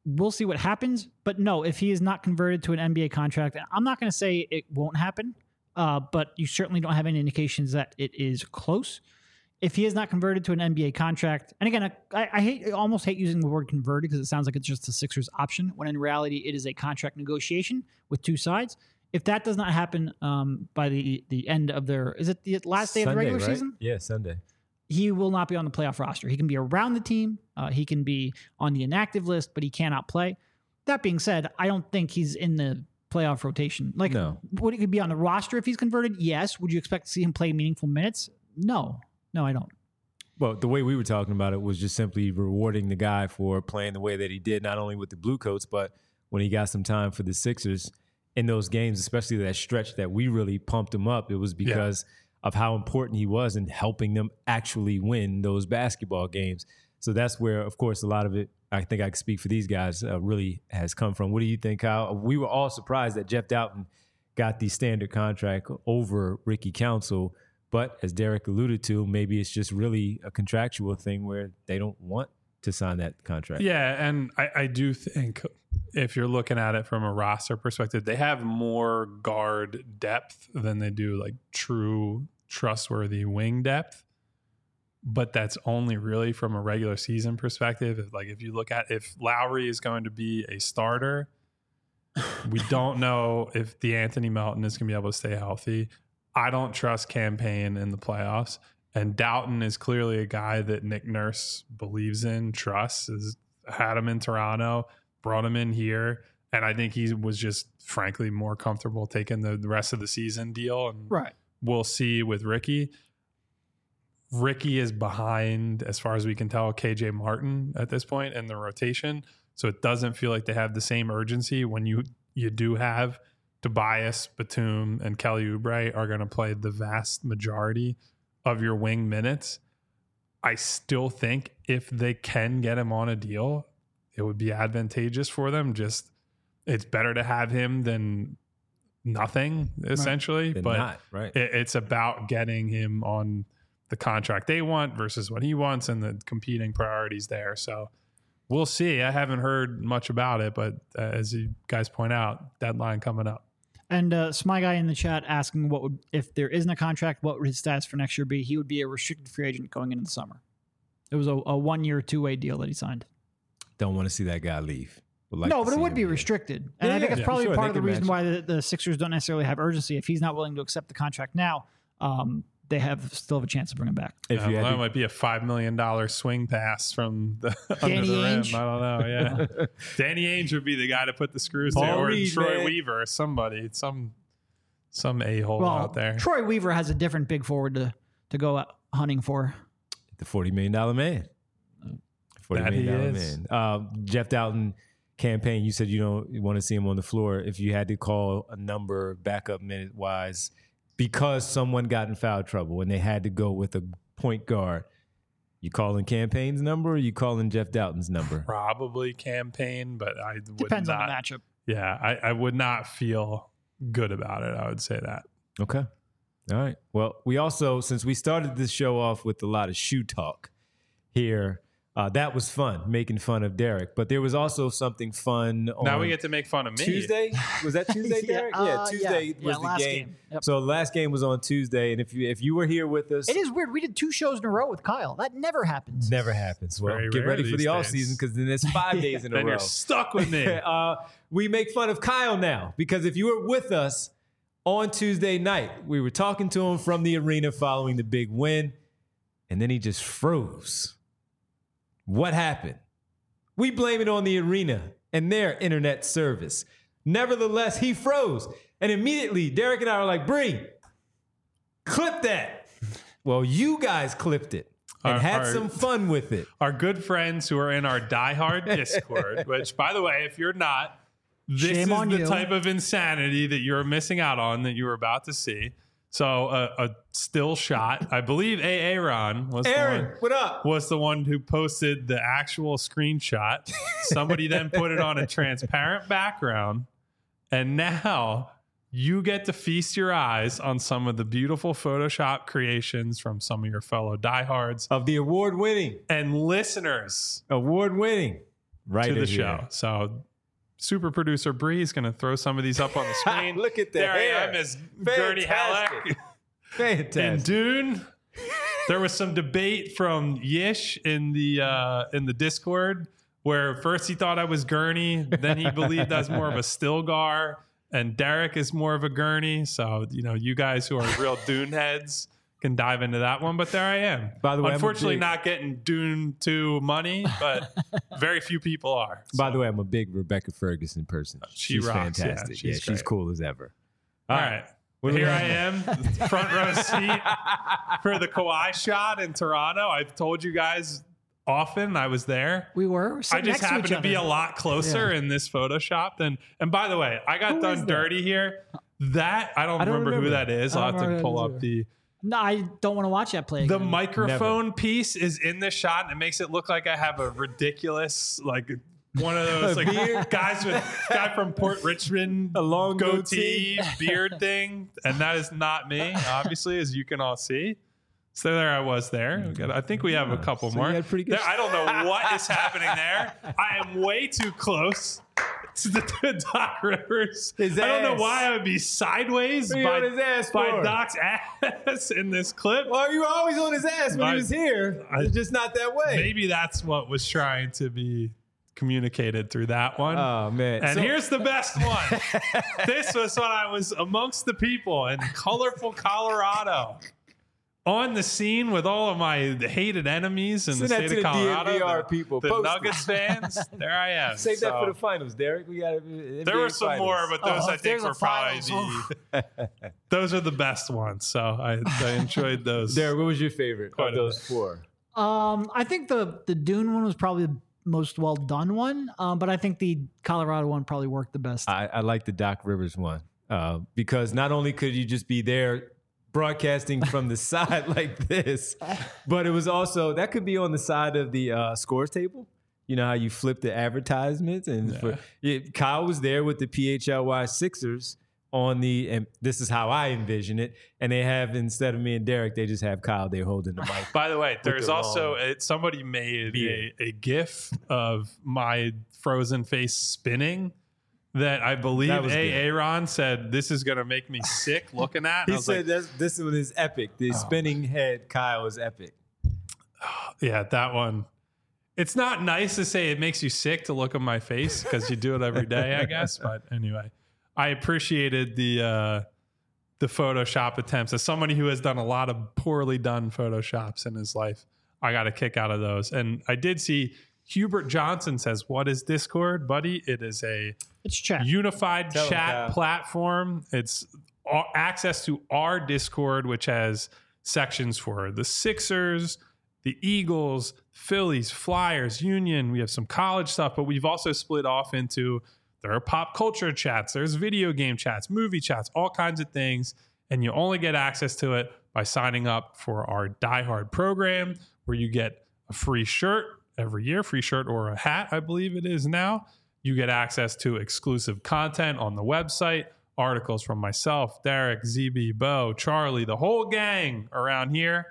we'll see what happens. But no, if he is not converted to an N B A contract, I'm not going to say it won't happen, uh, but you certainly don't have any indications that it is close. If he is not converted to an N B A contract, and again, I, I hate, I almost hate using the word converted because it sounds like it's just the Sixers' option, when in reality it is a contract negotiation with two sides. If that does not happen um, by the the end of their, is it the last day Sunday, of the regular right? season? Yeah, Sunday. He will not be on the playoff roster. He can be around the team. Uh, he can be on the inactive list, but he cannot play. That being said, I don't think he's in the playoff rotation. Like, No. would he be on the roster if he's converted? Yes. Would you expect to see him play meaningful minutes? No. No, I don't. Well, the way we were talking about it was just simply rewarding the guy for playing the way that he did, not only with the Blue Coats, but when he got some time for the Sixers in those games, especially that stretch that we really pumped him up. It was because yeah. of how important he was in helping them actually win those basketball games. So that's where, of course, a lot of it, I think I can speak for these guys, uh, really has come from. What do you think, Kyle? We were all surprised that Jeff Doughton got the standard contract over Ricky Council. But as Derek alluded to, maybe it's just really a contractual thing where they don't want to sign that contract. Yeah, and I, I do think if you're looking at it from a roster perspective, they have more guard depth than they do like true trustworthy wing depth. But that's only really from a regular season perspective. If, like if you look at if Lowry is going to be a starter, we don't know if the Anthony Melton is going to be able to stay healthy. I don't trust Campaign in the playoffs. And Doughton is clearly a guy that Nick Nurse believes in, trusts, has had him in Toronto, brought him in here. And I think he was just, frankly, more comfortable taking the, the rest of the season deal. And right. We'll see with Ricky. Ricky is behind, as far as we can tell, K J Martin at this point in the rotation. So it doesn't feel like they have the same urgency when you you do have Tobias, Batum, and Kelly Oubre are going to play the vast majority of your wing minutes. I still think if they can get him on a deal, it would be advantageous for them. Just it's better to have him than nothing, essentially. Right. But not, right. it, it's about getting him on the contract they want versus what he wants and the competing priorities there. So we'll see. I haven't heard much about it, but uh, as you guys point out, deadline coming up. And uh, Smy Guy in the chat asking what would, if there isn't a contract, what would his stats for next year be? He would be a restricted free agent going into the summer. It was a, a one-year, two-way deal that he signed. Don't want to see that guy leave. Would like no, to but it see would him be here. restricted. And Yeah, I think yeah, that's yeah, probably sure. part They of the can reason match why the, the Sixers don't necessarily have urgency. If he's not willing to accept the contract now, um, they have still have a chance to bring him back. If Uh, you well, had that to, might be a five million dollars swing pass from the under Danny the rim. Ainge? I don't know. Yeah, Danny Ainge would be the guy to put the screws Paul to, or Reed, Troy man. Weaver, somebody, some some a hole Well, out there. Troy Weaver has a different big forward to, to go out hunting for. the forty million dollars man. forty That million he dollars is. man. Uh, Jeff Doughton campaign, you said you don't want to see him on the floor. If you had to call a number backup minute wise, because someone got in foul trouble and they had to go with a point guard, you calling Campaign's number or you calling Jeff Doughton's number? Probably Campaign, but I would Depends not, on the matchup. Yeah, I, I would not feel good about it. I would say that. Okay. All right. Well, we also, since we started this show off with a lot of shoe talk here, uh, that was fun, making fun of Derek. But there was also something fun on Now we get to make fun of me. Tuesday. Was that Tuesday, Yeah, Derek? uh, yeah, Tuesday yeah. was Yeah, the last game. game. Yep. So the last game was on Tuesday. And if you if you were here with us, It is weird. We did two shows in a row with Kyle. That never happens. never happens. Well, very get rare ready for these the off days. season because then it's five days in a Then row. you're stuck with me. uh, we make fun of Kyle now because if you were with us on Tuesday night, we were talking to him from the arena following the big win, and then he just froze. What happened? We blame it on the arena and their internet service. Nevertheless, he froze. And immediately, Derek and I were like, Bree, clip that. Well, you guys clipped it and Our- had our- some fun with it. Our good friends who are in our diehard Discord, which, by the way, if you're not, this Shame is on the you. type of insanity that you're missing out on that you were about to see. So uh, a still shot. I believe A. Aaron was Aaron, the one, what up? was the one who posted the actual screenshot. Somebody then put it on a transparent background, and now you get to feast your eyes on some of the beautiful Photoshop creations from some of your fellow diehards Of the award-winning, and listeners. award-winning right to the in show. here. So super producer Bree is going to throw some of these up on the screen. Look at that. There hair. I am as Gertie Fantastic. Halleck. Fantastic. In Dune, there was some debate from Yish in the uh, in the Discord where first he thought I was Gurney, then he believed I was more of a Stilgar, and Derek is more of a Gurney. So you know, you guys who are real Dune heads can dive into that one. But there I am. By the way, unfortunately, I'm a big, not getting Dune two money, but very few people are. By So, the way, I'm a big Rebecca Ferguson person. She she's rocks, yeah, fantastic. she's Yeah, she's great. cool as ever. all right. What do we Here I have? am, front row seat for the Kawhi shot in Toronto. I've told you guys often I was there. We were. I sitting just next happened each to, be a other. lot closer in this Photoshop than. And by the way, I got Who is done that? dirty here. That I don't, I don't remember, who remember. that is. I I'll don't have to remember pull who up that the. No, I don't want to watch that play. The again. microphone piece is in this shot, and it makes it look like I have a ridiculous like. One of those like Beard? guys with guy from Port Richmond, A long goatee, goatee. beard thing, and that is not me, obviously, as you can all see. So there I was there. We got- I think we have a couple So more. you had pretty good There- I don't know what is happening there. I am way too close to the to Doc Rivers. His I don't know ass. why I would be sideways What are you by, on his ass by for? Doc's ass in this clip. Well, you were always on his ass when I- he was here. I- it's just not that way. Maybe that's what was trying to be communicated through that one. Oh man! And So- here's the best one. This was when I was amongst the people in colorful Colorado, on the scene with all of my hated enemies in Send the that state to of the D N Colorado. V R the, people. the Post it. Nuggets fans. There I am. save that So, for the finals, Derek. We got N B A there were some finals. more, but those Oh, I if think there's were a probably finals, the. Those are the best ones. So I, I enjoyed those. Derek, what was your favorite Quite of a those bit. four? Um, I think the the Dune one was probably the most well done one, um, but I think the Colorado one probably worked the best. I, I like the Doc Rivers one uh, because not only could you just be there broadcasting from the side like this, but it was also that could be on the side of the uh, scores table. You know how you flip the advertisements, and Yeah. for, yeah, Kyle was there with the P H L Y Sixers on the, and this is how I envision it. And they have, instead of me and Derek, they just have Kyle there holding the mic. By the way, there's the also long it, somebody made a, beard. a GIF of my frozen face spinning that I believe That was A. good. Aaron said this is going to make me sick looking at. And I He was said like, that's, this one is epic. The spinning head Kyle is epic. yeah, that one. It's not nice to say it makes you sick to look at my face because you do it every day, I guess. But anyway, I appreciated the uh, the Photoshop attempts. As somebody who has done a lot of poorly done Photoshops in his life, I got a kick out of those. And I did see Hubert Johnson says, "What is Discord, buddy? It is a It's chat. unified Tell him, chat Kyle. platform. It's a- access to our Discord, which has sections for the Sixers, the Eagles, Phillies, Flyers, Union. We have some college stuff, but we've also split off into there are pop culture chats, there's video game chats, movie chats, all kinds of things. And you only get access to it by signing up for our Die Hard program, where you get a free shirt every year, free shirt or a hat, I believe it is now. You get access to exclusive content on the website, articles from myself, Derek, Z B, Bo, Charlie, the whole gang around here.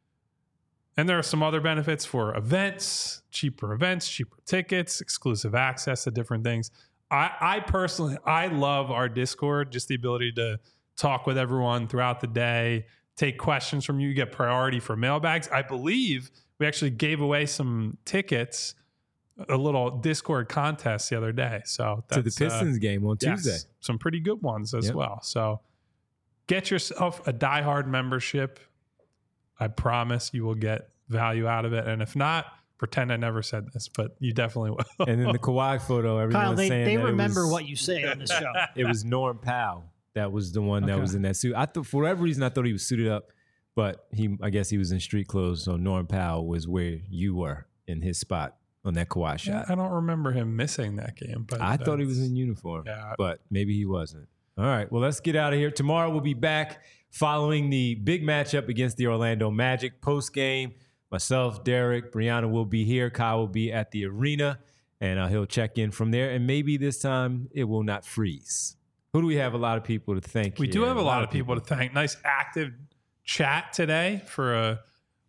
And there are some other benefits for events, cheaper events, cheaper tickets, exclusive access to different things. I, I personally, I love our Discord, just the ability to talk with everyone throughout the day, take questions from you, you get priority for mailbags. I believe we actually gave away some tickets, a little Discord contest the other day. So To the that's, uh, Pistons game on yes, Tuesday. some pretty good ones as Yep. well. So get yourself a Die Hard membership. I promise you will get value out of it. And if not, pretend I never said this, but you definitely will. And then the Kawhi photo, everyone Kyle, was they, saying they that remember it was, what you say on this show. it was Norm Powell that was the one that Okay. was in that suit. I thought for whatever reason I thought he was suited up, but he I guess he was in street clothes. So Norm Powell was where you were in his spot on that Kawhi shot. I don't remember him missing that game, but I thought he was that's- in uniform, Yeah. but maybe he wasn't. All right, well, let's get out of here. Tomorrow we'll be back following the big matchup against the Orlando Magic post game. Myself, Derek, Brianna will be here. Kyle will be at the arena, and uh, he'll check in from there. And maybe this time it will not freeze. Who do we have? A lot of people to thank. We here. do have a lot of people to thank. Nice active chat today for a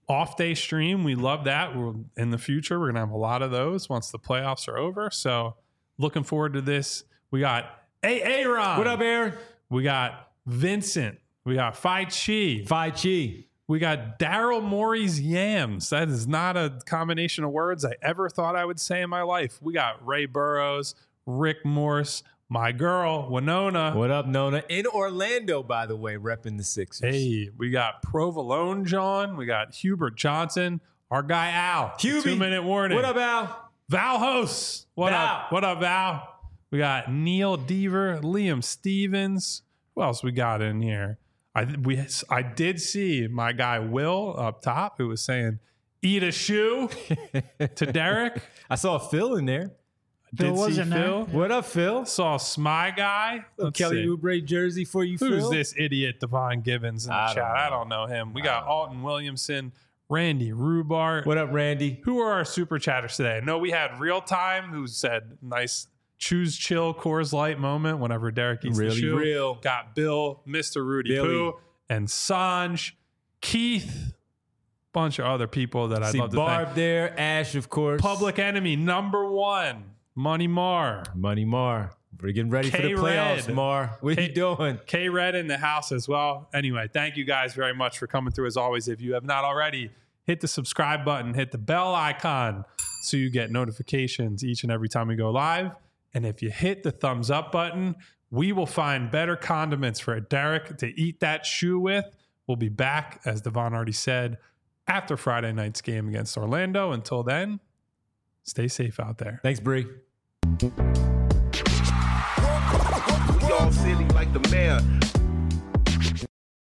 off day stream. We love that. We're, in the future, we're going to have a lot of those once the playoffs are over. So looking forward to this. We got A. Aaron. What up, Aaron? We got Vincent. We got Phi Chi. Phi Chi. We got Daryl Morey's Yams. That is not a combination of words I ever thought I would say in my life. We got Ray Burrows, Rick Morse, my girl, Winona. What up, Nona? In Orlando, by the way, repping the Sixers. Hey, we got Provolone John. We got Hubert Johnson. Our guy Al. Hubie. Two minute warning. What up, Al? Val Host. What Val. up? What up, Val? We got Neil Deaver, Liam Stevens. Who else we got in here? I we I did see my guy Will up top who was saying, "Eat a shoe" to Derek. I saw Phil in there. Phil Did was see in there. Phil. What up, Phil? Saw Smy guy. Let's Kelly see. Oubre jersey for you, Who's Phil? this idiot Devon Givens in the I don't chat? know. I don't know him. We got Alton Williamson, Randy Rubart. What up, Randy? Who are our super chatters today? No, we had Real Time who said nice choose chill Coors Light moment whenever Derek eats Really the shoe. real. Got Bill, Mister Rudy Billy. Poo, and Sanj, Keith, bunch of other people that I'd See love to Barb thank. there, Ash, of course. Public Enemy number one, Money Mar. Money Mar. We're getting ready for the K-Red. playoffs, Mar. What K- you doing? K Red in the house as well. Anyway, thank you guys very much for coming through as always. If you have not already, hit the subscribe button, hit the bell icon so you get notifications each and every time we go live. And if you hit the thumbs up button, we will find better condiments for Derek to eat that shoe with. We'll be back, as Devon already said, after Friday night's game against Orlando. Until then, stay safe out there. Thanks, Bree. We all silly like the mayor.